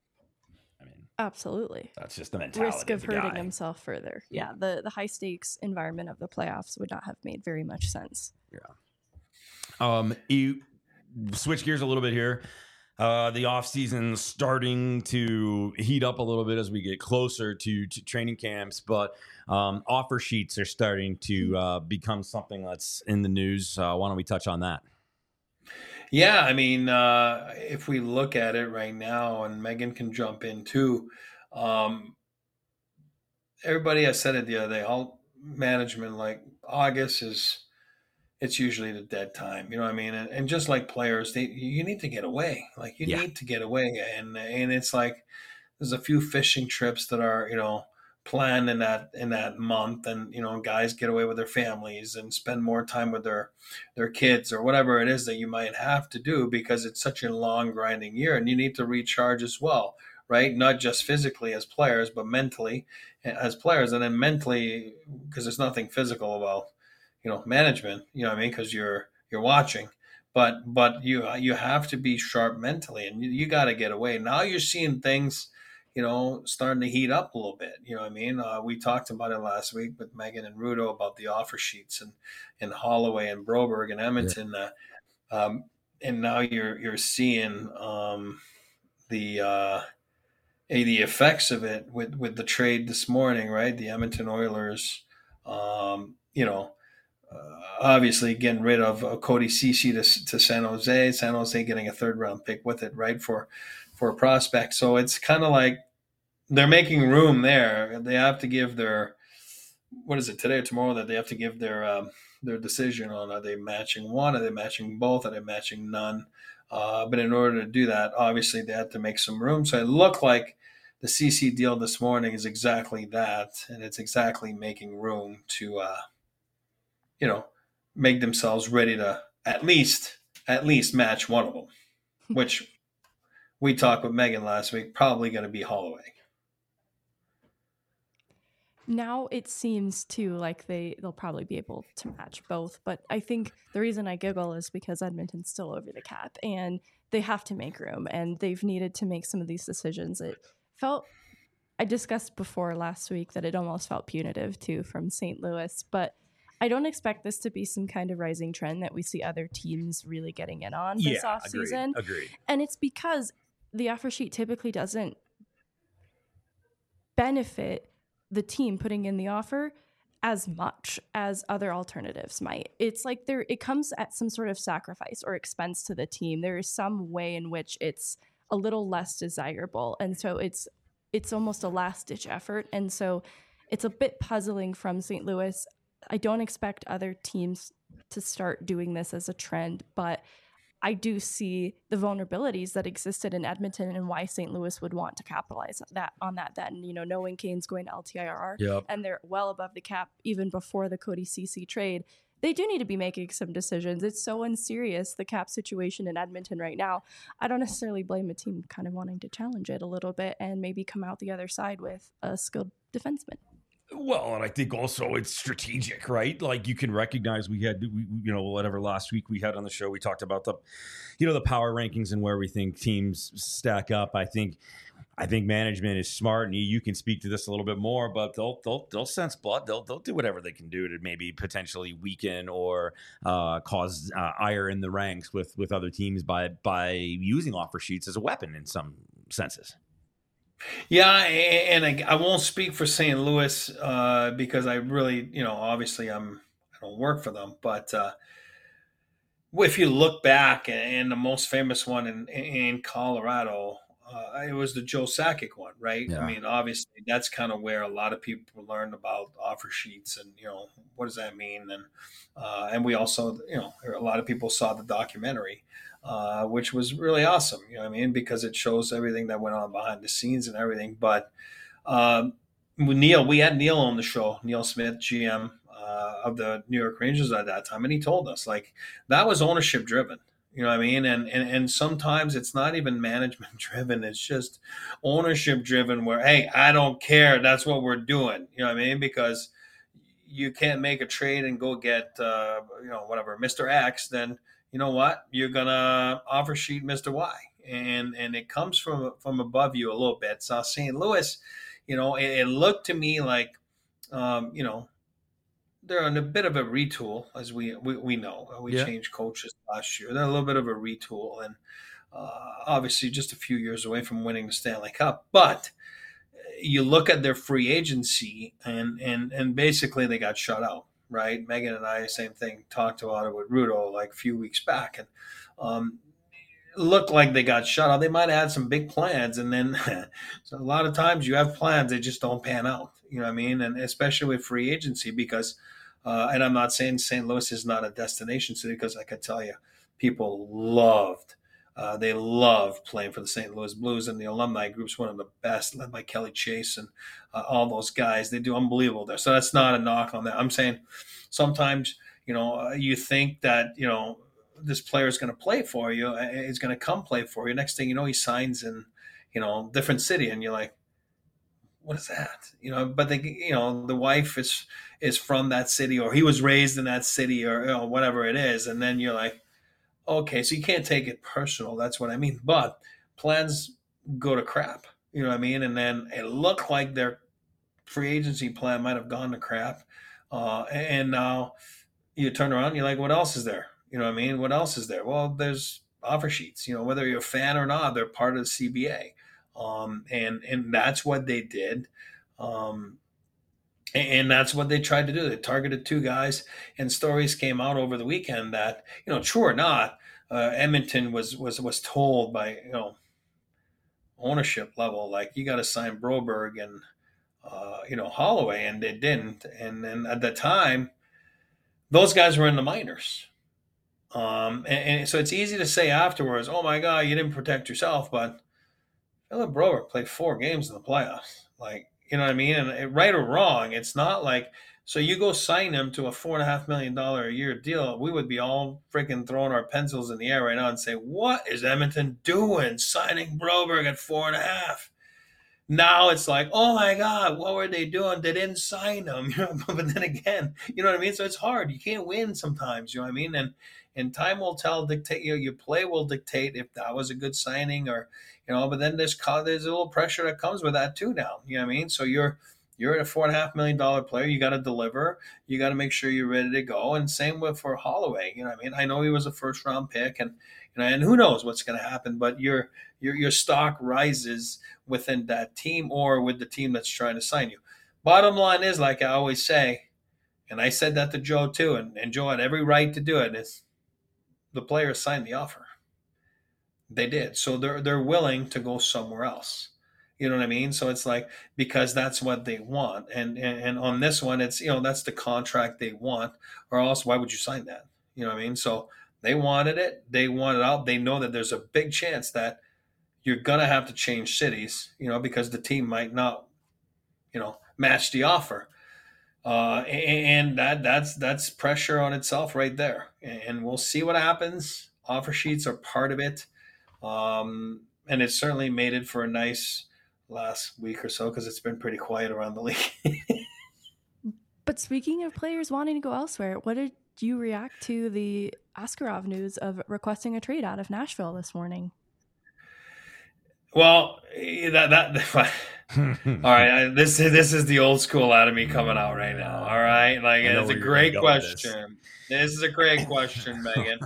I mean, absolutely, that's just the mentality. Risk of, of hurting guy. himself further. Yeah, the the high stakes environment of the playoffs would not have made very much sense. Yeah. Um, you switch gears a little bit here. Uh, the offseason starting to heat up a little bit as we get closer to, to training camps, but um, offer sheets are starting to uh, become something that's in the news. Uh, why don't we touch on that? Yeah, I mean, uh, if we look at it right now, and Megan can jump in too, um, everybody has said it the other day, all management, like August is, it's usually the dead time. You know what I mean? And, and just like players, they you need to get away. Like you Yeah. need to get away. And and it's like there's a few fishing trips that are, you know, planned in that in that month, and you know, guys get away with their families and spend more time with their their kids or whatever it is that you might have to do because it's such a long grinding year and you need to recharge as well, right? Not just physically as players, but mentally as players, and then mentally because there's nothing physical about, you know, management, you know what I mean? Because you're you're watching, but but you you have to be sharp mentally, and you, you got to get away. Now you're seeing things, you know, starting to heat up a little bit. You know what I mean? Uh, we talked about it last week with Megan and Rudo about the offer sheets and and Holloway and Broberg and Edmonton, yeah. uh, um, and now you're you're seeing um, the uh, the effects of it with with the trade this morning, right? The Edmonton Oilers, um, you know. Uh, obviously getting rid of uh, Cody Ceci to, to San Jose, San Jose getting a third round pick with it, right, for for a prospect. So it's kind of like they're making room there. They have to give their, what is it, today or tomorrow, that they have to give their um, their decision on, are they matching one, are they matching both, are they matching none? Uh, but in order to do that, obviously they have to make some room. So it looked like the C C deal this morning is exactly that, and it's exactly making room to uh, you know, make themselves ready to at least at least match one of them, which we talked with Megan last week, probably going to be Holloway. Now it seems too like they, they'll probably be able to match both. But I think the reason I giggle is because Edmonton's still over the cap and they have to make room, and they've needed to make some of these decisions. It felt, I discussed before last week that it almost felt punitive too from Saint Louis, but I don't expect this to be some kind of rising trend that we see other teams really getting in on this yeah, offseason. Agreed, agreed. And it's because the offer sheet typically doesn't benefit the team putting in the offer as much as other alternatives might. It's like there, it comes at some sort of sacrifice or expense to the team. There is some way in which it's a little less desirable. And so it's, it's almost a last ditch effort. And so it's a bit puzzling from Saint Louis. I don't expect other teams to start doing this as a trend, but I do see the vulnerabilities that existed in Edmonton and why Saint Louis would want to capitalize that on that then, you know, knowing Kane's going to L T I R R yep. and they're well above the cap even before the Cody Ceci trade. They do need to be making some decisions. It's so unserious, the cap situation in Edmonton right now. I don't necessarily blame a team kind of wanting to challenge it a little bit and maybe come out the other side with a skilled defenseman. Well, and I think also it's strategic, right? Like you can recognize we had, we, you know, whatever last week we had on the show, we talked about the, you know, the power rankings and where we think teams stack up. I think, I think management is smart, and you, you can speak to this a little bit more. But they'll they'll they'll sense blood. They'll they'll do whatever they can do to maybe potentially weaken or uh, cause uh, ire in the ranks with with other teams by by using offer sheets as a weapon in some senses. Yeah, and I, I won't speak for Saint Louis uh, because I really, you know, obviously I'm I don't work for them, but uh, if you look back, and the most famous one in in Colorado, uh, it was the Joe Sakic one, right? Yeah. I mean, obviously that's kind of where a lot of people learned about offer sheets and, you know, what does that mean? And uh, and we also, you know, a lot of people saw the documentary. Uh, which was really awesome, you know what I mean? Because it shows everything that went on behind the scenes and everything. But um, Neil, we had Neil on the show, Neil Smith, G M uh, of the New York Rangers at that time. And he told us, like, that was ownership driven, you know what I mean? And, and, and sometimes it's not even management driven. It's just ownership driven where, hey, I don't care. That's what we're doing. You know what I mean? Because you can't make a trade and go get, uh, you know, whatever, Mister X, then you know what? You're gonna offer sheet Mister Y, and and it comes from from above you a little bit. So Saint Louis, you know, it, it looked to me like, um, you know, they're in a bit of a retool, as we we, we know. We yeah. changed coaches last year. They're a little bit of a retool, and uh, obviously just a few years away from winning the Stanley Cup. But you look at their free agency, and and and basically they got shut out. Right, Megan and I, same thing, talked about it with Rudo like a few weeks back, and um, looked like they got shut out. They might have had some big plans, and then so a lot of times you have plans, they just don't pan out. You know what I mean? And especially with free agency, because, uh, and I'm not saying Saint Louis is not a destination city, because I can tell you, people loved. Uh, they love playing for the Saint Louis Blues, and the alumni group's one of the best, led by Kelly Chase and uh, all those guys. They do unbelievable there. So that's not a knock on that. I'm saying sometimes, you know, uh, you think that, you know, this player is going to play for you, is going to come play for you. Next thing you know, he signs in, you know, different city, and you're like, what is that? You know, but they, you know, the wife is is from that city, or he was raised in that city, or, you know, whatever it is, and then you're like, okay, so you can't take it personal. That's what I mean. But plans go to crap. You know what I mean? And then it looked like their free agency plan might have gone to crap. Uh, and now you turn around, you're like, what else is there? You know what I mean? What else is there? Well, there's offer sheets. You know, whether you're a fan or not, they're part of the C B A. Um, and, and that's what they did. Um, And that's what they tried to do. They targeted two guys, and stories came out over the weekend that, you know, true or not, uh, Edmonton was was was told by, you know, ownership level, like, you got to sign Broberg and uh, you know, Holloway, and they didn't. And then at the time, those guys were in the minors. Um, and, and so it's easy to say afterwards, oh my God, you didn't protect yourself, but Philip Broberg played four games in the playoffs, like. You know what I mean? And right or wrong, it's not like, so you go sign him to a four and a half million dollar a year deal. We would be all freaking throwing our pencils in the air right now and say, what is Edmonton doing signing Broberg at four and a half? Now it's like, oh my God, what were they doing? They didn't sign him. You know, but then again, you know what I mean? So it's hard. You can't win sometimes, you know what I mean? And and time will tell, dictate, you know, your play will dictate if that was a good signing, or, you know, but then there's there's a little pressure that comes with that too now. You know what I mean? So you're You're a four and a half million dollar player. You got to deliver. You got to make sure you're ready to go. And same with for Holloway. You know, what I mean, I know he was a first round pick, and you know, and who knows what's going to happen. But your your your stock rises within that team or with the team that's trying to sign you. Bottom line is, like I always say, and I said that to Joe too, and, and Joe had every right to do it. Is the players signed the offer. They did. So they're they're willing to go somewhere else. You know what I mean? So it's like, because that's what they want. And, and and on this one, it's, you know, that's the contract they want, or else why would you sign that? You know what I mean? So they wanted it. They want it out. They know that there's a big chance that you're going to have to change cities, you know, because the team might not, you know, match the offer. Uh, and that that's that's pressure on itself right there. And we'll see what happens. Offer sheets are part of it. Um, and it certainly made it for a nice last week or so, because it's been pretty quiet around the league. But speaking of players wanting to go elsewhere, what did you react to the Askarov news of requesting a trade out of Nashville this morning? Well, that that all right. I, this this is the old school out of me coming out right now. All right, like it's a great question. This. this is a great question, Megan.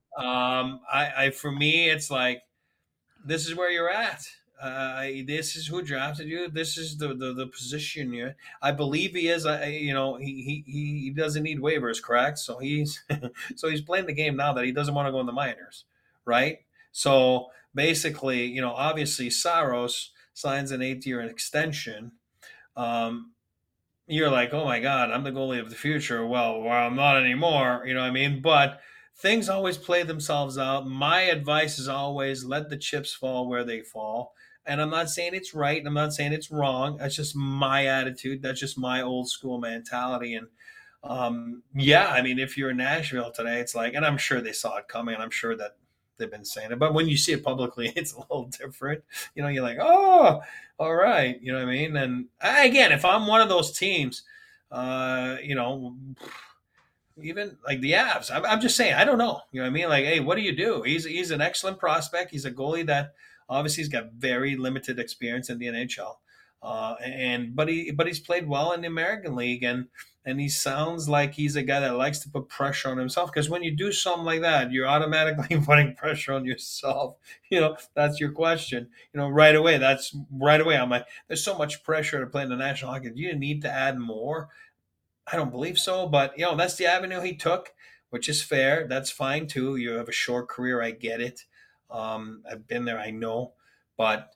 Um, I, I for me, it's like, this is where you're at. Uh, this is who drafted you. This is the, the, the position you're. I believe he is. I, you know, he, he he doesn't need waivers, correct? So he's so he's playing the game now that he doesn't want to go in the minors, right? So basically, you know, obviously Saros signs an eight-year extension. Um, you're like, oh my God, I'm the goalie of the future. Well, well, I'm not anymore. You know what I mean? But things always play themselves out. My advice is always let the chips fall where they fall. And I'm not saying it's right. I'm not saying it's wrong. That's just my attitude. That's just my old school mentality. And um, yeah, I mean, if you're in Nashville today, it's like, and I'm sure they saw it coming. And I'm sure that they've been saying it. But when you see it publicly, it's a little different. You know, you're like, oh, all right. You know what I mean? And again, if I'm one of those teams, uh, you know, even like the Avs, I'm, I'm just saying, I don't know. You know what I mean? Like, hey, what do you do? He's he's an excellent prospect. He's a goalie that obviously he's got very limited experience in the N H L, uh, and but he but he's played well in the American League, and and he sounds like he's a guy that likes to put pressure on himself. Because when you do something like that, you're automatically putting pressure on yourself. You know, that's your question. You know, right away. That's right away. I'm like, there's so much pressure to play in the National Hockey. Do you need to add more? I don't believe so, but you know, that's the avenue he took, which is fair. That's fine too. You have a short career. I get it. Um, I've been there. I know, but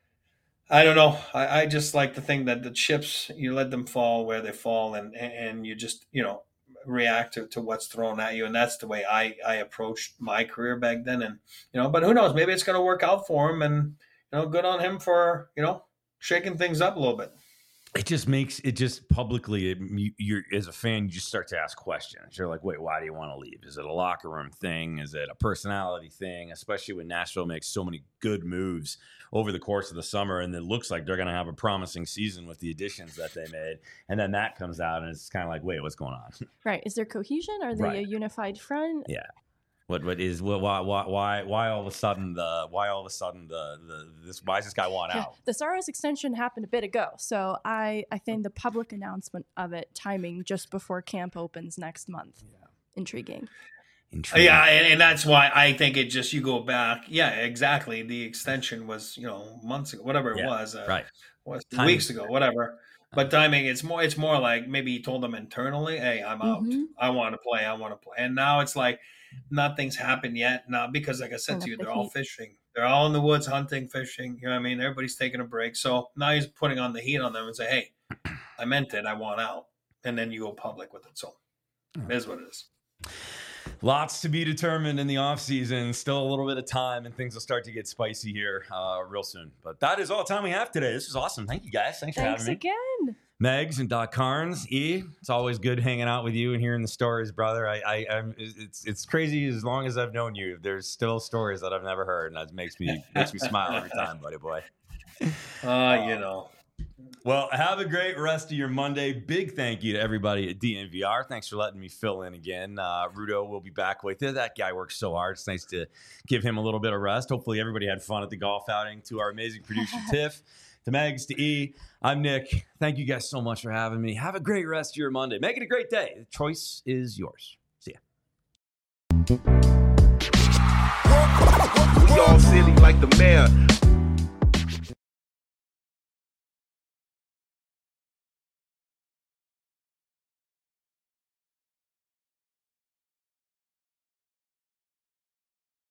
I don't know. I, I just like to think that the chips, you let them fall where they fall, and, and you just, you know, react to, to what's thrown at you. And that's the way I, I approached my career back then. And, you know, but who knows, maybe it's going to work out for him, and, you know, good on him for, you know, shaking things up a little bit. It just makes it just publicly, it, you, you're as a fan, you just start to ask questions. You're like, wait, why do you want to leave? Is it a locker room thing? Is it a personality thing? Especially when Nashville makes so many good moves over the course of the summer, and it looks like they're going to have a promising season with the additions that they made. And then that comes out, and it's kind of like, wait, what's going on? Right. Is there cohesion? Are they right. a unified front? Yeah. What what is what why why why all of a sudden the why all of a sudden the, the this why does this guy want out? The Saros extension happened a bit ago, so I I think the public announcement of it timing just before camp opens next month. Yeah. Intriguing. Intriguing. Yeah, and, and that's why I think it just you go back. Yeah, exactly. The extension was you know months ago, whatever it yeah, was, uh, right? Was weeks ago, whatever. But timing, it's more it's more like maybe he told them internally, "Hey, I'm out. Mm-hmm. I want to play. I want to play." And now it's like. Nothing's happened yet. Not because, like I said to you, they're all fishing. They're all in the woods hunting, fishing. You know what I mean? Everybody's taking a break. So now he's putting on the heat on them and say, hey, I meant it. I want out. And then you go public with it. So it is what it is. Lots to be determined in the offseason. Still a little bit of time, and things will start to get spicy here uh, real soon. But that is all the time we have today. This is awesome. Thank you, guys. Thanks, Thanks for having me. Thanks again. Megs and Doc Carnes, E, it's always good hanging out with you and hearing the stories, brother. I, I, I'm, it's, it's crazy. As long as I've known you, there's still stories that I've never heard, and that makes me, makes me smile every time, buddy boy. Uh, you know, Well, have a great rest of your Monday. Big thank you to everybody at D N V R. Thanks for letting me fill in again. Uh, Rudo will be back with you. That guy works so hard. It's nice to give him a little bit of rest. Hopefully everybody had fun at the golf outing. To our amazing producer, Tiff, to Megs, to E, I'm Nick. Thank you guys so much for having me. Have a great rest of your Monday. Make it a great day. The choice is yours. See ya. We all silly like the mayor.